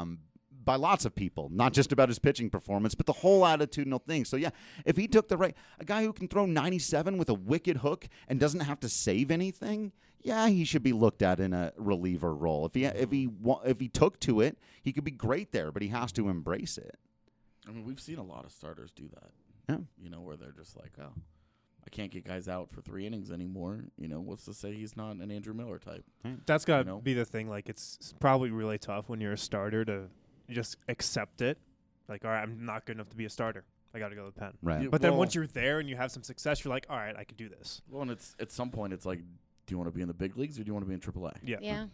By lots of people, not just about his pitching performance, but the whole attitudinal thing. So, yeah, if he took a guy who can throw 97 with a wicked hook and doesn't have to save anything, yeah, he should be looked at in a reliever role. If he took to it, he could be great there, but he has to embrace it. I mean, we've seen a lot of starters do that. Yeah. Where they're just like, oh, I can't get guys out for 3 innings anymore. What's to say he's not an Andrew Miller type? That's got to be the thing. Like, it's probably really tough when you're a starter to just accept it. Like, all right, I'm not good enough to be a starter. I got to go to the pen. Right. But then once you're there and you have some success, you're like, all right, I can do this. Well, and it's at some point, it's like, do you want to be in the big leagues or do you want to be in AAA? Yeah.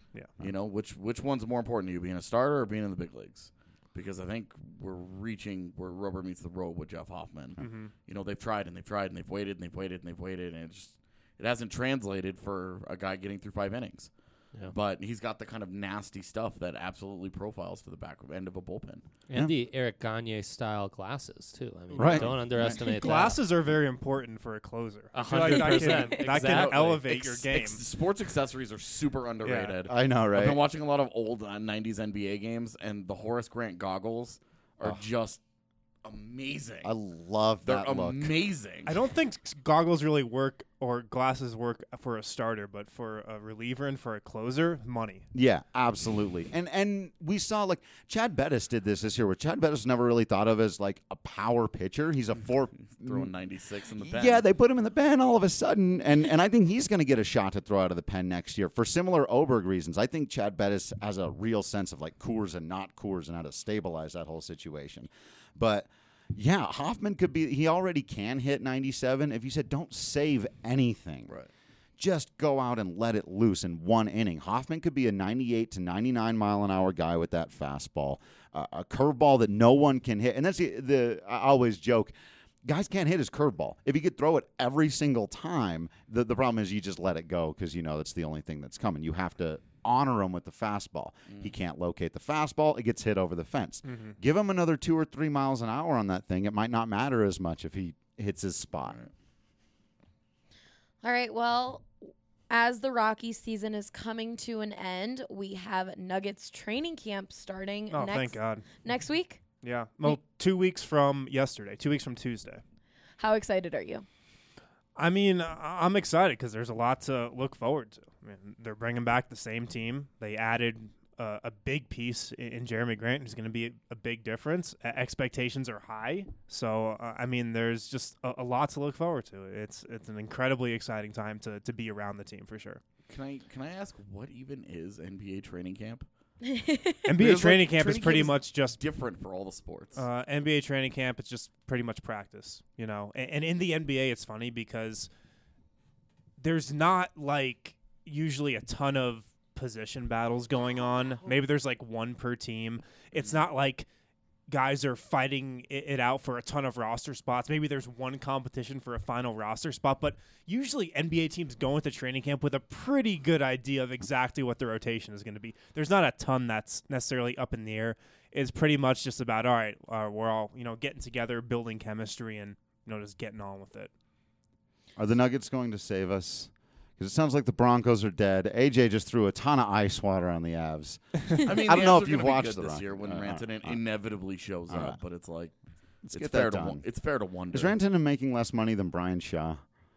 Which one's more important to you, being a starter or being in the big leagues? Because I think we're reaching where rubber meets the road with Jeff Hoffman. Mm-hmm. They've tried and they've tried and they've waited and they've waited and they've waited, and it hasn't translated for a guy getting through 5 innings. Yeah. But he's got the kind of nasty stuff that absolutely profiles to the back end of a bullpen. And the Eric Gagne style glasses too. I mean, Right. don't underestimate that. Glasses are very important for a closer. 100%. That can elevate your game. Sports accessories are super underrated. I know, right? I've been watching a lot of old 90s NBA games, and the Horace Grant goggles are just amazing. I love They're that look. amazing. I don't think goggles really work or glasses work for a starter, but for a reliever and for a closer, money. Yeah, absolutely. And we saw, like, Chad Bettis did this year, where Chad Bettis never really thought of as, like, a power pitcher. He's a throwing 96 in the pen. Yeah, they put him in the pen all of a sudden, and I think he's going to get a shot to throw out of the pen next year for similar Oberg reasons. I think Chad Bettis has a real sense of, like, Coors and not Coors and how to stabilize that whole situation. But yeah, Hoffman could be – he already can hit 97. If you said don't save anything, Right. just go out and let it loose in 1 inning. Hoffman could be a 98 to 99 mile an hour guy with that fastball, a curveball that no one can hit. And that's I always joke, guys can't hit his curveball. If he could throw it every single time, the problem is you just let it go because that's the only thing that's coming. You have to honor him with the fastball. He can't locate the fastball. It gets hit over the fence. Give him another 2 or 3 miles an hour on that thing. It might not matter as much if he hits his spot. All right, well, as the Rockies season is coming to an end, we have Nuggets training camp starting Oh, thank God. next week. Yeah. Well, 2 weeks from yesterday, 2 weeks from Tuesday. How excited are you? I mean, I'm excited because there's a lot to look forward to. I mean, they're bringing back the same team. They added a big piece in Jeremy Grant, who's going to be a big difference. Expectations are high. So, I mean, there's just a lot to look forward to. It's an incredibly exciting time to be around the team for sure. Can I ask what even is NBA training camp? NBA training camp is pretty much just different for all the sports. NBA training camp, it's just pretty much practice, And in the NBA, it's funny because there's not like usually a ton of position battles going on. Maybe there's like one per team. It's not like guys are fighting it out for a ton of roster spots. Maybe there's one competition for a final roster spot, but usually NBA teams go into training camp with a pretty good idea of exactly what their rotation is going to be. There's not a ton that's necessarily up in the air. It's pretty much just about, all right, we're all, getting together, building chemistry, and, just getting on with it. Are the Nuggets going to save us? Because it sounds like the Broncos are dead. AJ just threw a ton of ice water on the Avs. I mean, I don't know if the Avs are you've gonna be watched good the this Rock- year when Rantanen inevitably shows All up, right. but it's like it's get fair that to done. it's fair to wonder. Is Rantanen making less money than Brian Shaw?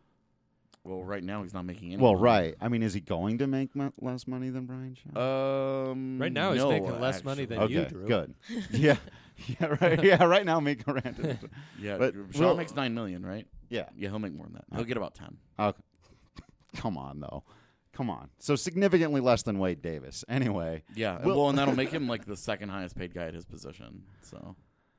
Well, right now he's not making any. Well, money. right. I mean, is he going to make less money than Brian Shaw? Right now, he's no, making less money actually. than you, Okay, Drew. good. Yeah, right. Yeah, right now, make Rantanen. Yeah, But Shaw we'll- makes $9 million, right? Yeah. Yeah, he'll make more than that. He'll get about 10. Okay. Come on, though. Come on. So significantly less than Wade Davis. Anyway. Yeah, Well- well, and that'll make him like the second highest paid guy at his position. So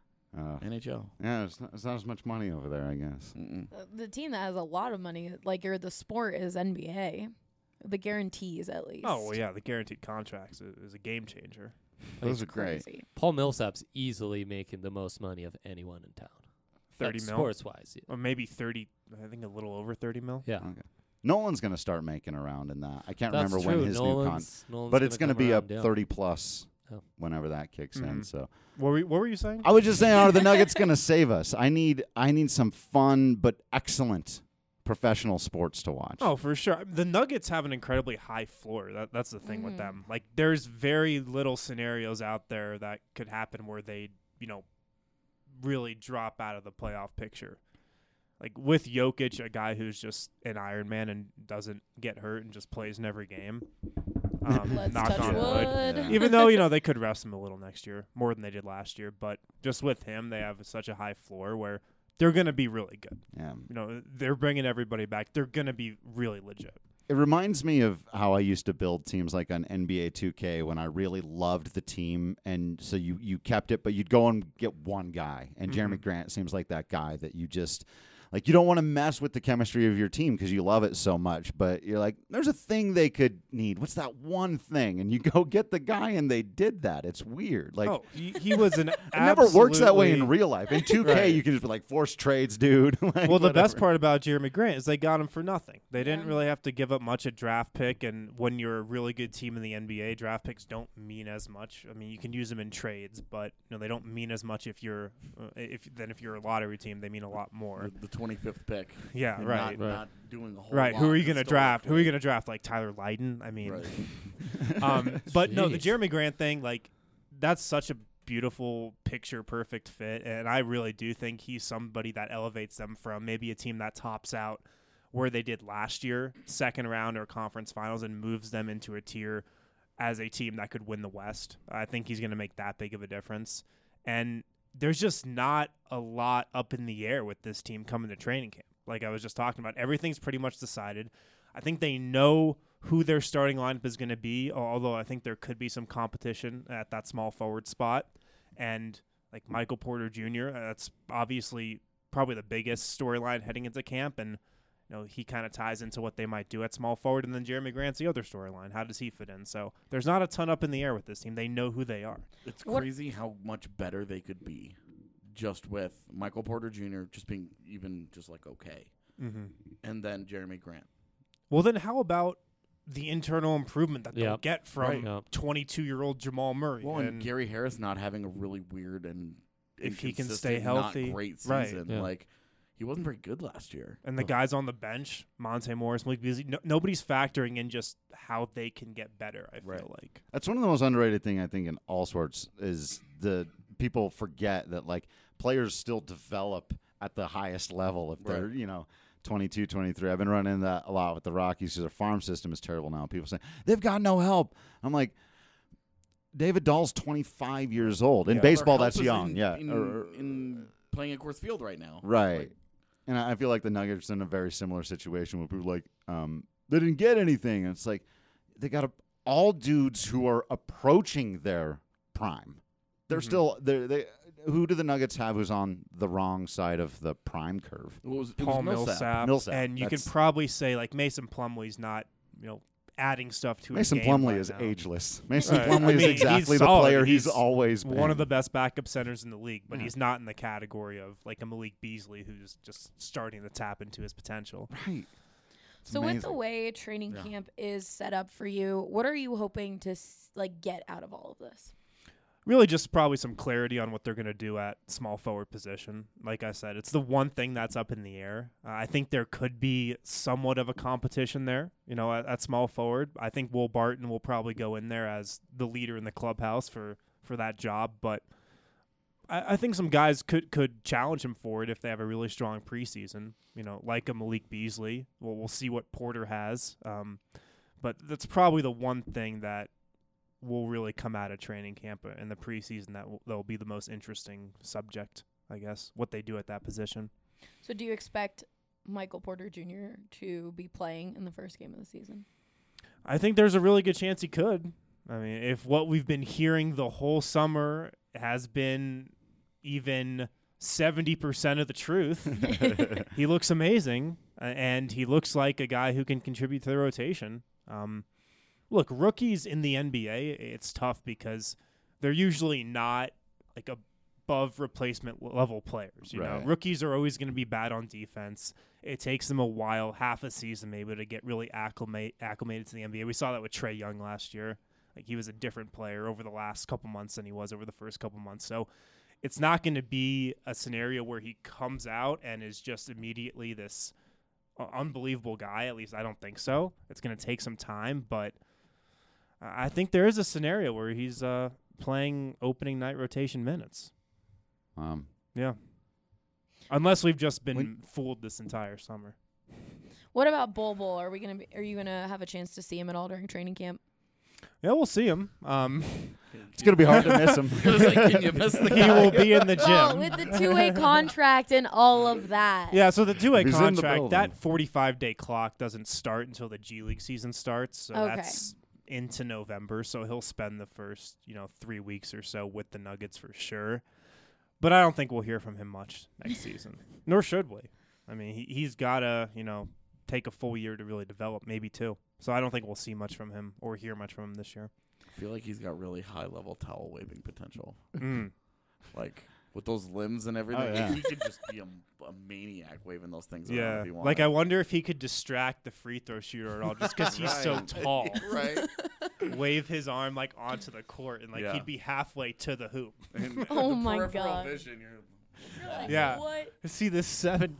NHL. Yeah, it's not as much money over there, I guess. The team that has a lot of money, the sport, is NBA. The guarantees, at least. Oh, well, yeah, the guaranteed contracts is a game changer. Those are great. Crazy. Paul Millsap's easily making the most money of anyone in town. 30 mil? Sports-wise. Or maybe 30, I think a little over 30 mil. Yeah. Okay. Nolan's going to start making around in that. I can't That's remember true. when his new Nolan's but it's going to gonna be come up around, yeah. 30 plus Oh. whenever that kicks in. So What were you saying? I was just saying, are the Nuggets going to save us? I need some fun but excellent professional sports to watch. Oh, for sure. The Nuggets have an incredibly high floor. That's the thing with them. Like, there's very little scenarios out there that could happen where they, really drop out of the playoff picture. Like, with Jokic, a guy who's just an Iron Man and doesn't get hurt and just plays in every game. Let's knock touch on wood. wood. Even though, they could rest him a little next year, more than they did last year. But just with him, they have such a high floor where they're going to be really good. Yeah. They're bringing everybody back. They're going to be really legit. It reminds me of how I used to build teams like on NBA 2K when I really loved the team, and so you kept it, but you'd go and get one guy, and Jeremy Grant seems like that guy that you just – like, you don't want to mess with the chemistry of your team because you love it so much, but you're like, there's a thing they could need. What's that one thing? And you go get the guy, and they did that. It's weird. Like, he was an it never works that way in real life. In 2K, Right. you can just be like, force trades, dude. Like, Well, the best whatever. part about Jeremy Grant is they got him for nothing. They didn't Yeah. really have to give up much at draft pick, and when you're a really good team in the NBA, draft picks don't mean as much. I mean, you can use them in trades, but they don't mean as much if you're if you're a lottery team. They mean a lot more. The 25th pick. Yeah, and right. Not doing a whole Right. lot Who are you going to historically. draft? Who are you going to draft? Like Tyler Lydon? I mean, Right. but no, the Jeez. Jeremy Grant thing, like, that's such a beautiful picture perfect fit, and I really do think he's somebody that elevates them from maybe a team that tops out where they did last year, second round or conference finals, and moves them into a tier as a team that could win the West. I think he's going to make that big of a difference, and there's just not a lot up in the air with this team coming to training camp. Like I was just talking about, everything's pretty much decided. I think they know who their starting lineup is going to be, although I think there could be some competition at that small forward spot. And like Michael Porter Jr., that's obviously probably the biggest storyline heading into camp, and he kind of ties into what they might do at small forward. And then Jeremy Grant's the other storyline. How does he fit in? So there's not a ton up in the air with this team. They know who they are. It's crazy how much better they could be just with Michael Porter Jr. just being even just like okay. Mm-hmm. And then Jeremy Grant. Well, then how about the internal improvement that they'll Yep. get from Right. Yep. 22-year-old Jamal Murray? Well, and Gary Harris not having a really weird and If he can inconsistent, stay healthy. not great Right. season. Yeah. Like he wasn't very good last year. And the guys on the bench, Monte Morris, Malik Beasley, nobody's factoring in just how they can get better, I Right. feel like. That's one of the most underrated thing I think in all sports is the people forget that like players still develop at the highest level if they're, Right. 22, 23. I've been running that a lot with the Rockies because their farm system is terrible now. People say they've got no help. I'm like, David Dahl's 25 years old. In Yeah. baseball, Their that's help is young. in, Yeah. in playing at Coors Field right now. Right. Like, And I feel like the Nuggets are in a very similar situation where people are like, they didn't get anything. And it's like, they got all dudes who are approaching their prime. They're still, who do the Nuggets have who's on the wrong side of the prime curve? it was Paul Millsap. Millsap, And you could that's- probably say, like, Mason Plumlee's not, adding stuff to Mason his game Plumlee right is now. ageless. Mason Right. Plumlee I is mean, exactly he's the solid. player he's He's always been. One of the best backup centers in the league, but Yeah. he's not in the category of, like, a Malik Beasley who's just starting to tap into his potential. Right. It's So with the amazing. way training Yeah. camp is set up for you, what are you hoping to get out of all of this? Really just probably some clarity on what they're going to do at small forward position. Like I said, it's the one thing that's up in the air. I think there could be somewhat of a competition there, at small forward. I think Will Barton will probably go in there as the leader in the clubhouse for that job. But I think some guys could challenge him for it if they have a really strong preseason, like a Malik Beasley. Well, we'll see what Porter has. But that's probably the one thing that will really come out of training camp in the preseason that'll be the most interesting subject, I guess, what they do at that position. So do you expect Michael Porter Jr. to be playing in the first game of the season? I think there's a really good chance he could. I mean, if what we've been hearing the whole summer has been even 70% of the truth, he looks amazing, and he looks like a guy who can contribute to the rotation. Look, rookies in the NBA, it's tough because they're usually not like above replacement level players. You know, Right. rookies are always going to be bad on defense. It takes them a while, half a season maybe, to get really acclimated to the NBA. We saw that with Trae Young last year. Like, he was a different player over the last couple months than he was over the first couple months. So it's not going to be a scenario where he comes out and is just immediately this unbelievable guy. At least I don't think so. It's going to take some time, but I think there is a scenario where he's playing opening night rotation minutes. Yeah. Unless we've just been fooled this entire summer. What about Bol? Are you gonna have a chance to see him at all during training camp? Yeah, we'll see him. It's going to be hard to miss him. Can you miss the He will be in the gym. Well, with the 2-way contract and all of that. Yeah, so the 2-way He's in the contract, building. that 45-day clock doesn't start until the G League season starts. So Okay. that's into November. So he'll spend the first, 3 weeks or so with the Nuggets for sure. But I don't think we'll hear from him much next season. Nor should we. I mean, he's got to, take a full year to really develop, maybe 2. So I don't think we'll see much from him or hear much from him this year. I feel like he's got really high-level towel waving potential. Mm. Like, with those limbs and everything, Oh, yeah. he could just be a maniac waving those things around Yeah. if he wanted. Like, I wonder if he could distract the free throw shooter at all just because he's so Right. tall. Right? Wave his arm, onto the court, and, Yeah. he'd be halfway to the hoop. And Oh the my peripheral God. Vision, you're Yeah. What? See this 7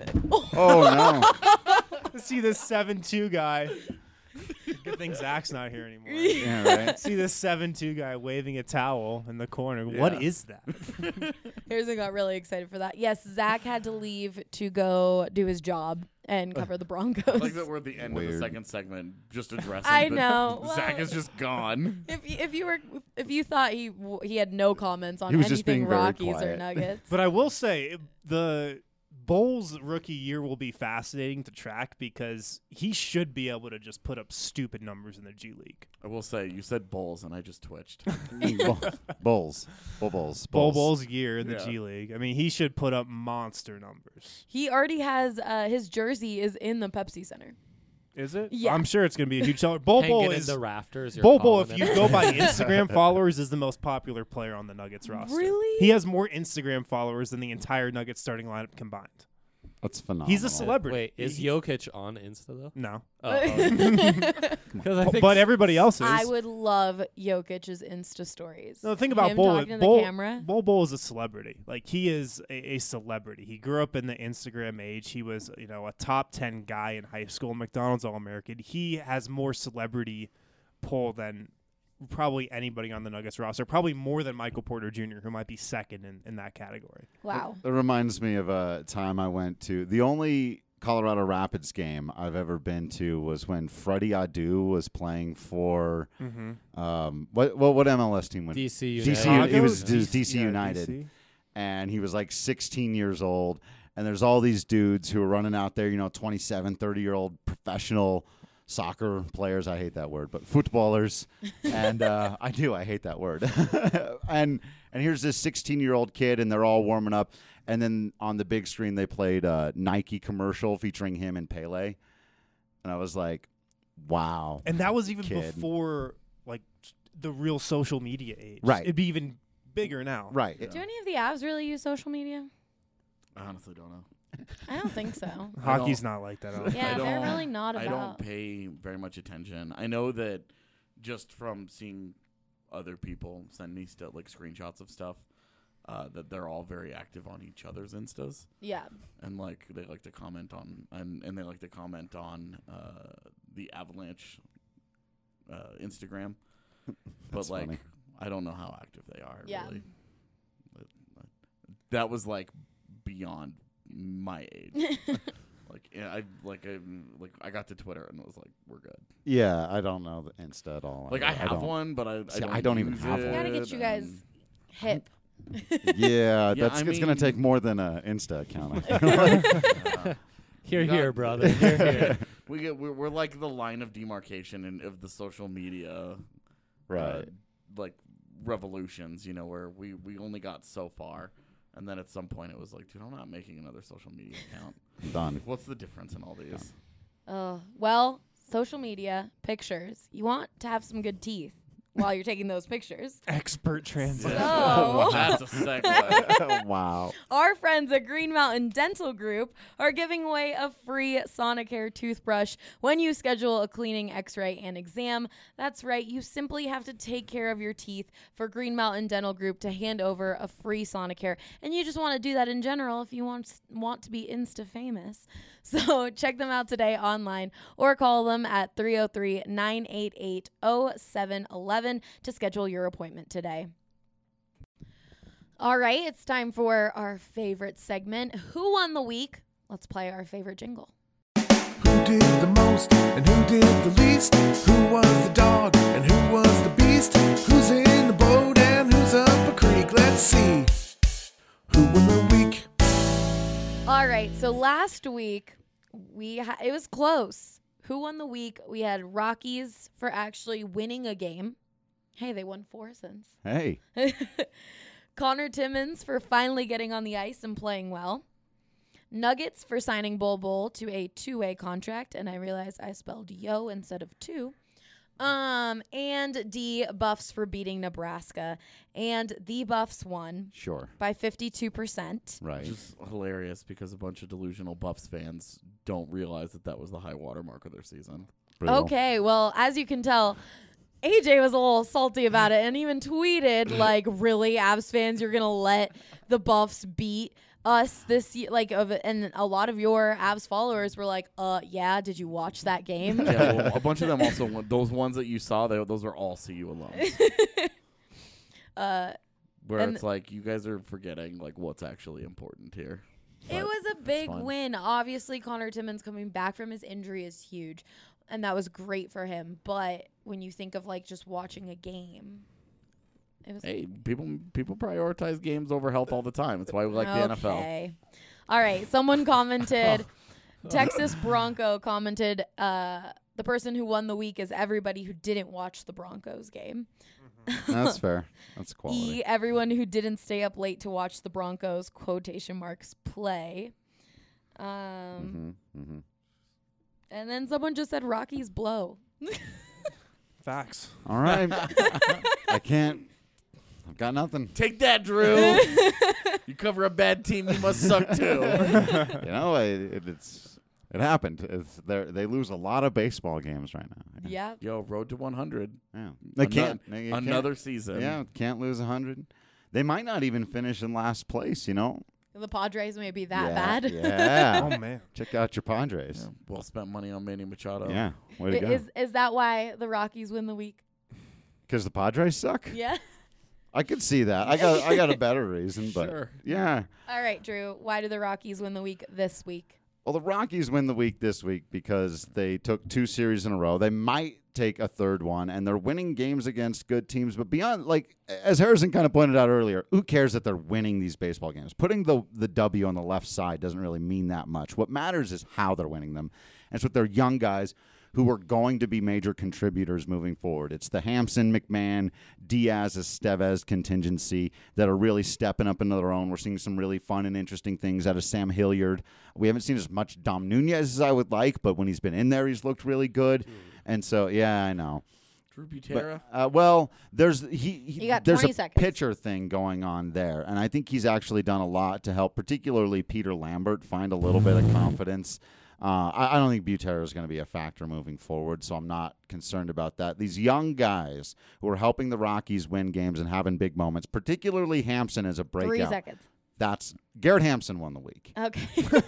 Oh, no. See this 7'2" guy. Good thing Zach's not here anymore. Yeah, right. See this 7'2" guy waving a towel in the corner. What Yeah. is that? Harrison got really excited for that. Yes, Zach had to leave to go do his job and cover the Broncos. like that we're at the end of the Weird. second segment just addressing I that know. Zach Well- is just gone. If you thought he had no comments on He was just anything being very Rockies or quiet. Nuggets. But I will say the Bulls rookie year will be fascinating to track because he should be able to just put up stupid numbers in the G League. I will say, you said Bulls, and I just twitched. Bulls. Bulls year in the Yeah. G League. I mean, he should put up monster numbers. He already has his jersey is in the Pepsi Center. Is it? Yeah. I'm sure it's going to be a huge seller. Bol Hanging is in the rafters. you're Bol, calling if it. you go by Instagram followers, is the most popular player on the Nuggets roster. Really? He has more Instagram followers than the entire Nuggets starting lineup combined. That's phenomenal. He's a celebrity. Wait, is He- Jokic on Insta though? No. Because I think But everybody else is. I would love Jokic's Insta stories. No, the thing about Him Bol, talking to the camera. Bol is a celebrity. Like, he is a celebrity. He grew up in the Instagram age. He was, a top 10 guy in high school, McDonald's All-American. He has more celebrity pull than probably anybody on the Nuggets roster, probably more than Michael Porter Jr., who might be second in that category. Wow. It reminds me of a time I went to. The only Colorado Rapids game I've ever been to was when Freddie Adu was playing for what MLS team went? DC United. He was Chicago? DC Yeah, United, DC. and he was like 16 years old. And there's all these dudes who are running out there, 27, 30-year-old professional soccer players. I hate that word, but footballers. And I hate that word. and here's this 16-year-old kid, and they're all warming up. And then on the big screen, they played a Nike commercial featuring him and Pele. And I was like, wow. And that was even Kid. before, the real social media age. Right. It'd be even bigger now. Right. Do any of the Avs really use social media? I honestly don't know. I don't think so. Hockey's not like that. I don't Yeah, I they're don't- really not I about. don't pay very much attention. I know that just from seeing other people send me screenshots of stuff, that they're all very active on each other's Instas, Yeah. and they like to comment on and they like to comment on the Avalanche Instagram. That's But funny. I don't know how active they are. Yeah. Really. That was beyond my age. I got to Twitter and was like, we're good. Yeah, I don't know the Insta at all. I have don't. one, but See, I don't even use have one. Gotta it, get you guys and- hip. Yeah, Yeah, it's I going to mean- take more than an Insta account. I feel like. Here, got- here, brother. Here, here. We're like the line of demarcation of the social media, Right. revolutions. Where we only got so far, and then at some point it was like, dude, I'm not making another social media account. Done. What's the difference in all these? Well, social media, pictures. You want to have some good teeth while you're taking those pictures. Expert translation. So, That's a segue. Wow. our friends at Green Mountain Dental Group are giving away a free Sonicare toothbrush when you schedule a cleaning, x-ray, and exam. That's right. You simply have to take care of your teeth for Green Mountain Dental Group to hand over a free Sonicare. And you just want to do that in general if you want to be Insta famous. So check them out today online or call them at 303-988-0711 to schedule your appointment today. All right, it's time for our favorite segment, Who Won the Week? Let's play our favorite jingle. Who did the most and who did the least? Who was the dog and who was the beast? Who's in the boat and who's up a creek? Let's see. Who won the week? All right, so last week it was close. Who won the week? We had Rockies for actually winning a game. Hey, they won 4 since. Hey. Connor Timmins for finally getting on the ice and playing well. Nuggets for signing Bol Bol to a 2-way contract, and I realized I spelled yo instead of two. And D Buffs for beating Nebraska, and the Buffs won Sure. by 52%. Right. Which is hilarious because a bunch of delusional Buffs fans don't realize that was the high water mark of their season. Brutal. Okay, well, as you can tell, AJ was a little salty about it and even tweeted, like, really, Avs fans, you're going to let the Buffs beat us this year? And a lot of your Avs followers were like, yeah, did you watch that game? Yeah, well, a bunch of them also those ones that you saw, those are all CU alums. Where and it's like, you guys are forgetting, like, what's actually important here. It But was a it's big fun. win. Obviously, Connor Timmins coming back from his injury is huge, and that was great for him. But when you think of, like, just watching a game, it was... Hey, people prioritize games over health all the time. That's why we like the NFL. Okay. All right. Someone commented, Texas Bronco commented, the person who won the week is everybody who didn't watch the Broncos game. That's fair. That's quality. Everyone who didn't stay up late to watch the Broncos, quotation marks, play. And then someone just said Rockies blow. Facts. All right. I can't. I've got nothing. Take that, Drew. You cover a bad team, you must suck too. You know, it happened. They lose a lot of baseball games right now. Yeah. Yo, road to 100. Yeah. They can't. Another season. Yeah, can't lose 100. They might not even finish in last place, you know? The Padres may be that Yeah, bad. Yeah. Oh, man. Check out your Padres. Yeah, well spent money on Manny Machado. Yeah. Way to go. Is that why the Rockies win the week? Because the Padres suck? Yeah. I could see that. I got a better reason, but Sure. yeah. All right, Drew. Why do the Rockies win the week this week? Well, the Rockies win the week this week because they took 2 series in a row. They might take a third one, and they're winning games against good teams. But beyond, like, as Harrison kind of pointed out earlier, who cares that they're winning these baseball games? Putting the W on the left side doesn't really mean that much. What matters is how they're winning them. And it's with their young guys who are going to be major contributors moving forward. It's the Hampson, McMahon, Diaz, Estevez contingency that are really stepping up into their own. We're seeing some really fun and interesting things out of Sam Hilliard. We haven't seen as much Dom Nunez as I would like, but when he's been in there, he's looked really good. And so, yeah, I know. Drew Butera. Well, there's got there's 20 a seconds. pitcher thing going on there, and I think he's actually done a lot to help, particularly Peter Lambert, find a little bit of confidence. I don't think Butera is going to be a factor moving forward, so I'm not concerned about that. These young guys who are helping the Rockies win games and having big moments, particularly Hampson as a breakout. 3 seconds. That's Garrett Hampson won the week. Okay.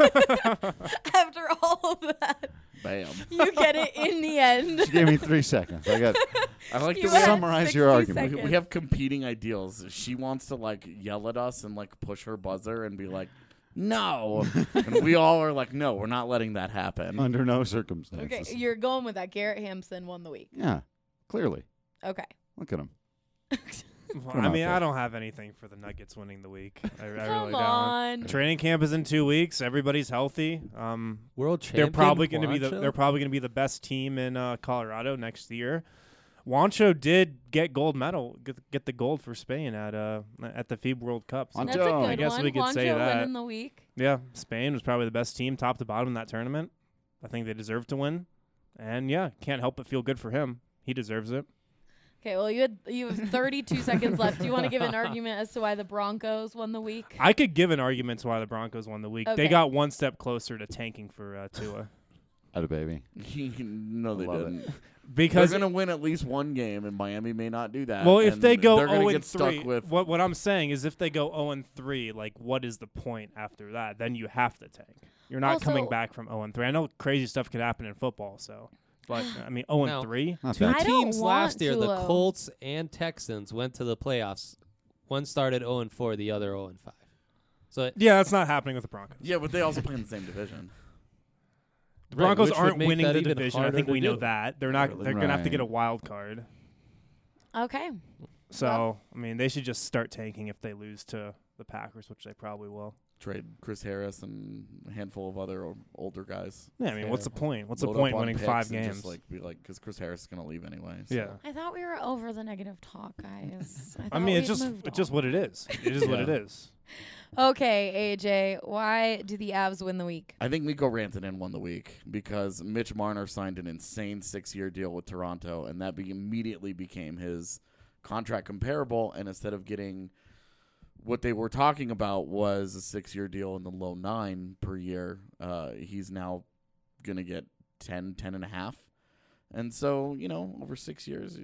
After all of that, Bam. you get it in the end. She gave me 3 seconds. I like You the had way summarize your 60 argument. seconds. we have competing ideals. She wants to, like, yell at us and, like, push her buzzer and be like, no. And we all are like, no, we're not letting that happen. Under no circumstances. Okay, you're going with that. Garrett Hampson won the week. Yeah, clearly. Okay. Look at him. Well, Come I on, mean, Phil. I don't have anything for the Nuggets winning the week. I really Come don't. on. Training camp is in 2 weeks. Everybody's healthy. World champion. They're probably going to be Juancho? they're probably going to be the best team in Colorado next year. Juancho did get gold medal, get the gold for Spain at the FIBA World Cup. So, Juancho. That's a good I guess one. we could say Juancho that. winning the week. yeah, Spain was probably the best team, top to bottom in that tournament. I think they deserve to win, and yeah, can't help but feel good for him. He deserves it. Okay, well, you have 32 seconds left. Do you want to give an argument as to why the Broncos won the week? I could give an argument to why the Broncos won the week. Okay. They got one step closer to tanking for Tua. Had a baby. No, they love it. didn't. Because They're going to win at least one game, and Miami may not do that. well, if and they go they're gonna 0 get and stuck 3, with what I'm saying is if they go 0 and 3, like what is the point after that? Then you have to tank. You're not coming Also- back from 0 and 3. I know crazy stuff can happen in football, so but I mean 0 No. and 3. Not Two bad. I don't teams want last year, the Tulo. Colts and Texans, went to the playoffs. One started 0 and 4, the other 0 and 5. So Yeah, that's not happening with the Broncos. yeah, but they also play in the same division. The Broncos which would aren't make winning that the even division. I harder think to we know do. that. They're not. They're gonna have to get a Right. wild card. Okay. So I mean, they should just start tanking if they lose to the Packers, which they probably will. Trade Chris Harris and a handful of other older guys. Yeah, I mean, what's the point? What's the Load point up on winning picks 5 and games? Just like be like, because Chris Harris is going to leave anyway. So. Yeah. I thought we were over the negative talk, guys. I mean, it's we'd just moved it's just on. what it is. It is what it Yeah. is. Okay, AJ, why do the Avs win the week? I think Mikko Rantanen won the week because Mitch Marner signed an insane 6-year deal with Toronto, and that immediately became his contract comparable. And instead of getting what they were talking about was a 6-year deal in the low 9 per year, he's now going to get 10.5. And so, over 6 years,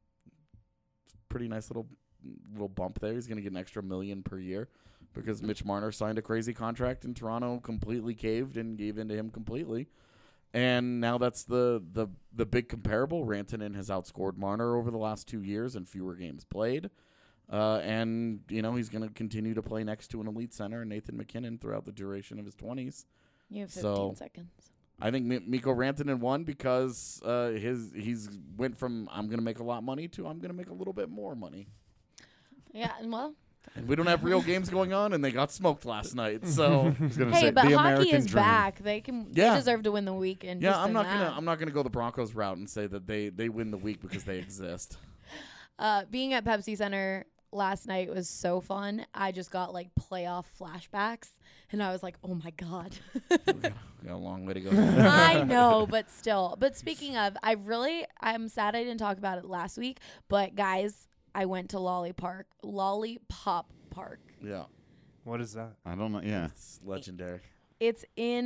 pretty nice little bump there. He's going to get an extra $1 million per year. Because Mitch Marner signed a crazy contract and Toronto completely caved and gave in to him completely. And now that's the big comparable. Rantanen has outscored Marner over the last 2 years in fewer games played. And, he's going to continue to play next to an elite center, Nathan McKinnon, throughout the duration of his 20s. You have 15 seconds. I think Mikko Rantanen won because he's went from I'm going to make a lot of money to I'm going to make a little bit more money. Yeah, and well, And we don't have real games going on, and they got smoked last night. So I was gonna hey, say, but the hockey American is dream. back. They Yeah. deserve to win the week. And yeah, just I'm in not that. gonna go the Broncos route and say that they win the week because they exist. Being at Pepsi Center last night was so fun. I just got like playoff flashbacks, and I was like, "Oh my god!" We got a long way to go. I know, but still. But speaking of, I'm sad I didn't talk about it last week. But guys, I went to Lollipop Park. Yeah, What is that? I don't know. Yeah. it's legendary. It's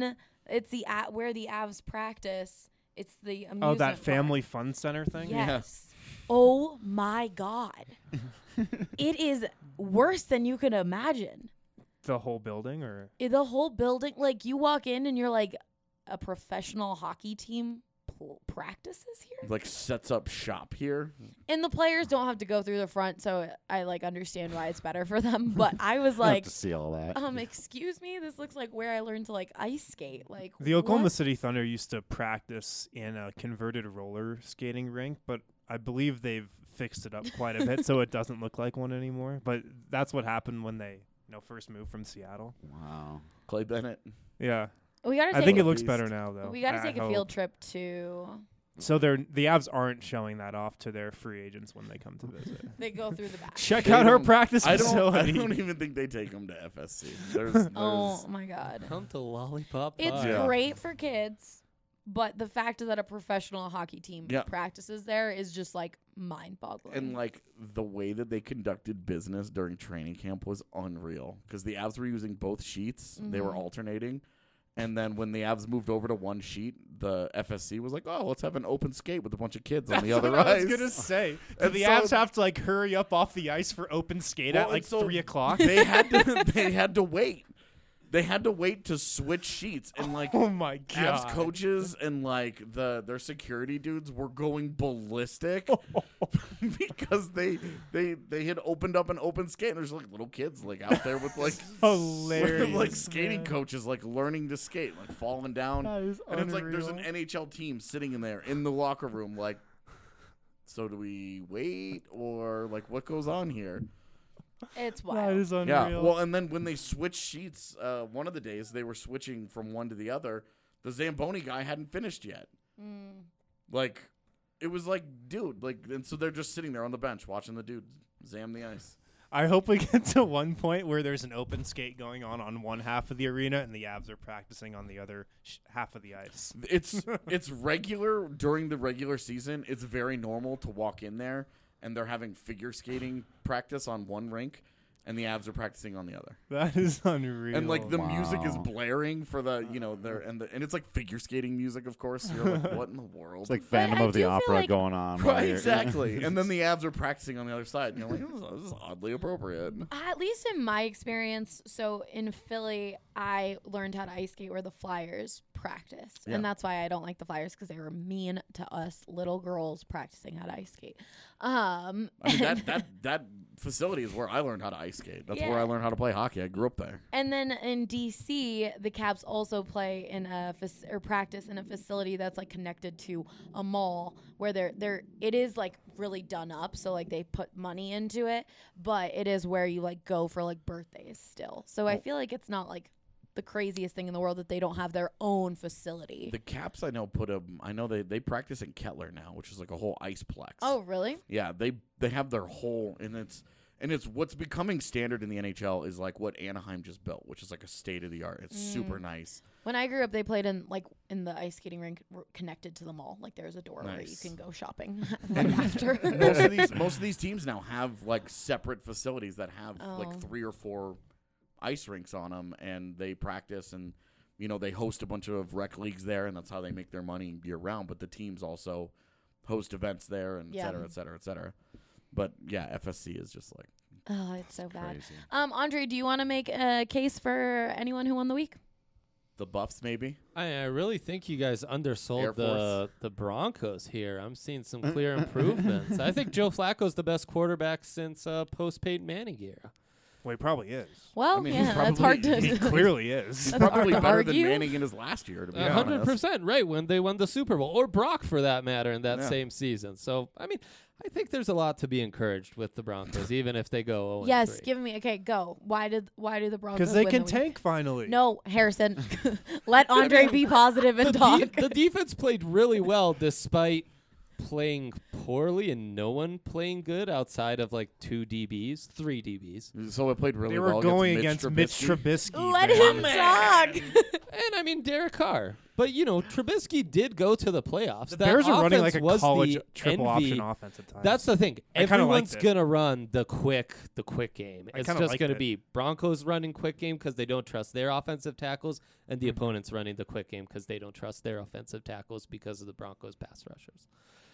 where the Avs practice. It's the amusement Oh, that park. family fun center thing. Yes. Oh my god. It is worse than you could imagine. The whole building, or The whole building, like you walk in and you're like, a professional hockey team practices here, Like sets up shop here. and the players don't have to go through the front, so I like understand why it's better for them. But I was I have like, to see all that. excuse me, this looks like where I learned to like ice skate. Like the Oklahoma what? City Thunder used to practice in a converted roller skating rink, but I believe they've fixed it up quite a bit, so it doesn't look like one anymore. But that's what happened when they first moved from Seattle. Wow. Clay Bennett. Yeah, We gotta I take think a, it looks Beast. better now, though. we gotta I take a hope. field trip to. So the Avs aren't showing that off to their free agents when they come to visit. They go through the back. Check They out our don't- practice I facility. don't even think they take him to FSC. There's Oh my god. come to Lollipop It's Park. Yeah. great for kids, but the fact that a professional hockey team Yeah. practices there is just like mind-boggling. and like the way that they conducted business during training camp was unreal because the Avs were using both sheets. They were alternating. And then when the Avs moved over to one sheet, the FSC was like, "Oh, let's have an open skate with a bunch of kids on the other What I ice." was gonna say. Do And the so- Avs have to like hurry up off the ice for open skate Well, at like and so 3 o'clock? They had to wait. They had to wait to switch sheets, and like Oh my Avs god! coaches and like their security dudes were going ballistic because they had opened up an open skate. And there's like little kids like out there with like Hilarious, like skating man. coaches like learning to skate, like falling down. That is And it's like there's an unreal. NHL team sitting in there in the locker room, like, so do we wait or like what goes on here? it's That wild. is unreal. Yeah. Well, and then when they switched sheets, one of the days they were switching from one to the other. The Zamboni guy hadn't finished yet. Like, it was like, dude, like, and so they're just sitting there on the bench watching the dude zam the ice. I hope we get to one point where there's an open skate going on one half of the arena and the Avs are practicing on the other half of the ice. It's regular during the regular season. It's very normal to walk in there and they're having figure skating practice on one rink. and the Avs are practicing on the other. That is unreal. And like the music is Wow. blaring for the and it's like figure skating music, of course. You're like, what in the world? It's like But Phantom I of the do feel Opera like- going on. while right, you're- exactly. And then the Avs are practicing on the other side, and you're like, this is oddly appropriate. At least in my experience, so in Philly, I learned how to ice skate where the Flyers practice. Yeah. And that's why I don't like the Flyers, because they were mean to us little girls practicing how to ice skate. I mean, that facility is where I learned how to ice skate. That's where Yeah. I learned how to play hockey. I grew up there. And then in DC, the Caps also play in or practice in a facility that's like connected to a mall where it is like really done up. So like they put money into it, but it is where you like go for like birthdays still. So I feel like it's not like the craziest thing in the world that they don't have their own facility. The Caps, I know, they practice in Kettler now, which is like a whole iceplex. Oh, really? Yeah, they have their whole, and it's what's becoming standard in the NHL is like what Anaheim just built, which is like a state of the art. It's super nice. When I grew up, they played in the ice skating rink connected to the mall. Like there's a door where you Nice. can go shopping right after. Most of these teams now have like separate facilities that have Oh. like 3 or 4 ice rinks on them, and they practice, and they host a bunch of rec leagues there, and that's how they make their money year round. But the teams also host events there, and et cetera, et cetera, et cetera. But yeah, FSC is just like Oh, it's so bad. Crazy. Andre, do you want to make a case for anyone who won the week? the Buffs maybe. I really think you guys Air undersold Force. the Broncos here. I'm seeing some clear improvements. I think Joe Flacco's the best quarterback since post-Peyton Manning era. Well, he probably is. Well, I mean, yeah, he's that's hard to. He clearly is. He's That's hard probably to better than argue. Manning in his last year, to be 100% right when they won the Super Bowl, or Brock for that matter, in that Yeah. same season. So, I mean, I think there's a lot to be encouraged with the Broncos, even if they go 0-3. Yes, give me. Okay, go. Why do the Broncos? Because they win can the week? tank finally. No, Harrison. Let Andre be positive and the, talk. the defense played really well despite playing poorly and no one playing good outside of like 3 DBs. So it played really They well were going against Mitch Trubisky. Trubisky. Let man. him talk. And I mean Derek Carr. But Trubisky did go to the playoffs. The That Bears are running offense like a was college the triple envy. option offense at times. That's the thing. I kinda liked Everyone's it. gonna run the quick game. I It's kinda just liked gonna it. be Broncos running quick game because they don't trust their offensive tackles, and the opponents running the quick game because they don't trust their offensive tackles because of the Broncos pass rushers.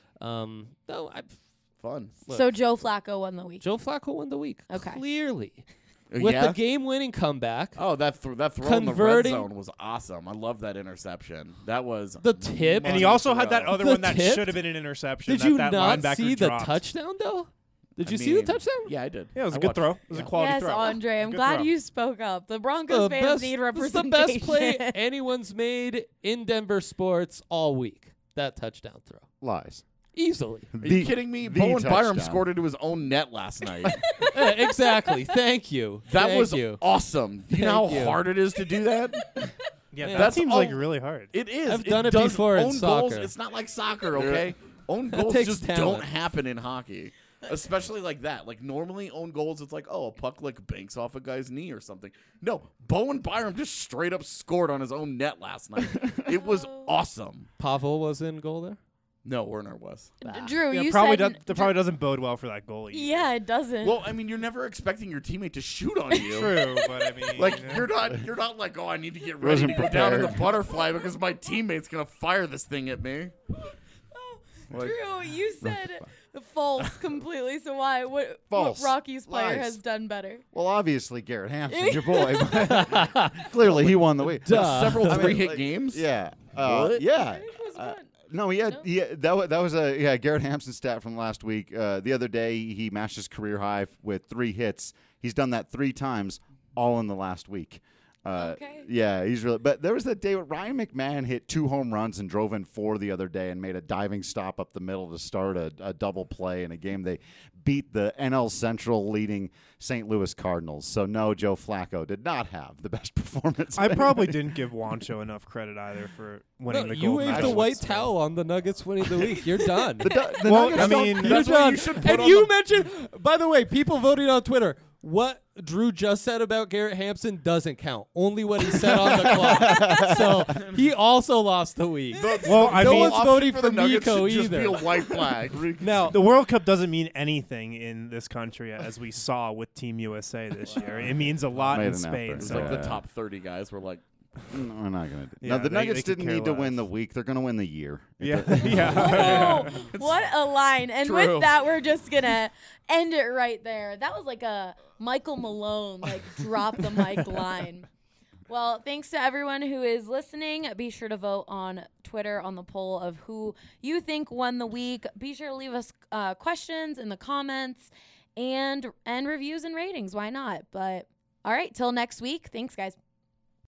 Fun. Look. So Joe Flacco won the week. Joe Flacco won the week. Okay. Clearly. With yeah? the game-winning comeback. Oh, that throw in the red Converting- zone was awesome. I love that interception. That was The tip. And he also had that other The one that tip? should have been an interception. Did that you that not linebacker see the dropped. touchdown, though? Did I you see the mean, touchdown? Yeah, I did. Yeah, it was I a good watched throw. it. It was Yeah. a quality Yes, throw. Andre, I'm Good glad throw. you spoke up. The Broncos fans need It's the representation. best play anyone's made in Denver sports all week. That touchdown throw. Lies. Easily. Are you kidding me? the Bowen Byram touchdown. scored into his own net last night. Exactly. Thank you. That Thank was you. awesome. You know Thank how you. hard it is to do that? Yeah, Yeah. that That's seems all- like really hard. It is. I've done it does before in own goals. soccer. It's not like soccer, okay? Own goals takes just talent. don't happen in hockey. Especially like that. Like normally own goals, it's like, oh, a puck like banks off a guy's knee or something. No, Bowen Byram just straight up scored on his own net last night. It was awesome. Pavel was in goal there. No, Werner was. Drew, Yeah, you probably said that probably doesn't bode well for that goalie. Yeah, it doesn't. Well, I mean, you're never expecting your teammate to shoot on you. True, but I mean, Like yeah. you're not like, oh, I need to get ready to go down in the butterfly because my teammate's gonna fire this thing at me. Like, Drew, you said false completely. So why? What False. Rocky's player Lies. has done better? Well, obviously Garrett Hampson's your boy. but Clearly, he won the week. several I mean, three-hit like, games. Yeah. What? Yeah. I think it was one. No, he had, No? that was a Garrett Hampson stat from last week. The other day, he matched his career high with 3 hits. He's done that 3 times, all in the last week. Okay. Yeah, he's really. But there was that day where Ryan McMahon hit 2 home runs and drove in 4 the other day and made a diving stop up the middle to start a double play in a game. They beat the NL Central leading St. Louis Cardinals. So no, Joe Flacco did not have the best performance. I of probably anybody. didn't give Wancho enough credit either for winning No, the you gold waved medal. the white So- towel on the Nuggets winning the week. You're done. The Well, Nuggets I don't- mean, You're That's what done. you should put And on you the- mentioned, by the way, people voting on Twitter, what Drew just said about Garrett Hampson doesn't count. Only what he said on the clock. So he also lost the week. Well, I no mean, one's voting the for Nuggets Miko should just either. be a white flag. Now, the World Cup doesn't mean anything in this country, as we saw with Team USA this year. It means a lot Made in an Spain. effort. It's So like the Yeah. top 30 guys were like, No, we're not gonna do. Yeah, No, the they Nuggets could didn't care need to win less. the week. They're gonna win the year. yeah, yeah. Oh, what a line. And True. with that, we're just going to end it right there. That was like a Michael Malone, like, drop the mic line. Well, thanks to everyone who is listening. Be sure to vote on Twitter on the poll of who you think won the week. Be sure to leave us questions in the comments and reviews and ratings. Why not? But all right, till next week. Thanks, guys.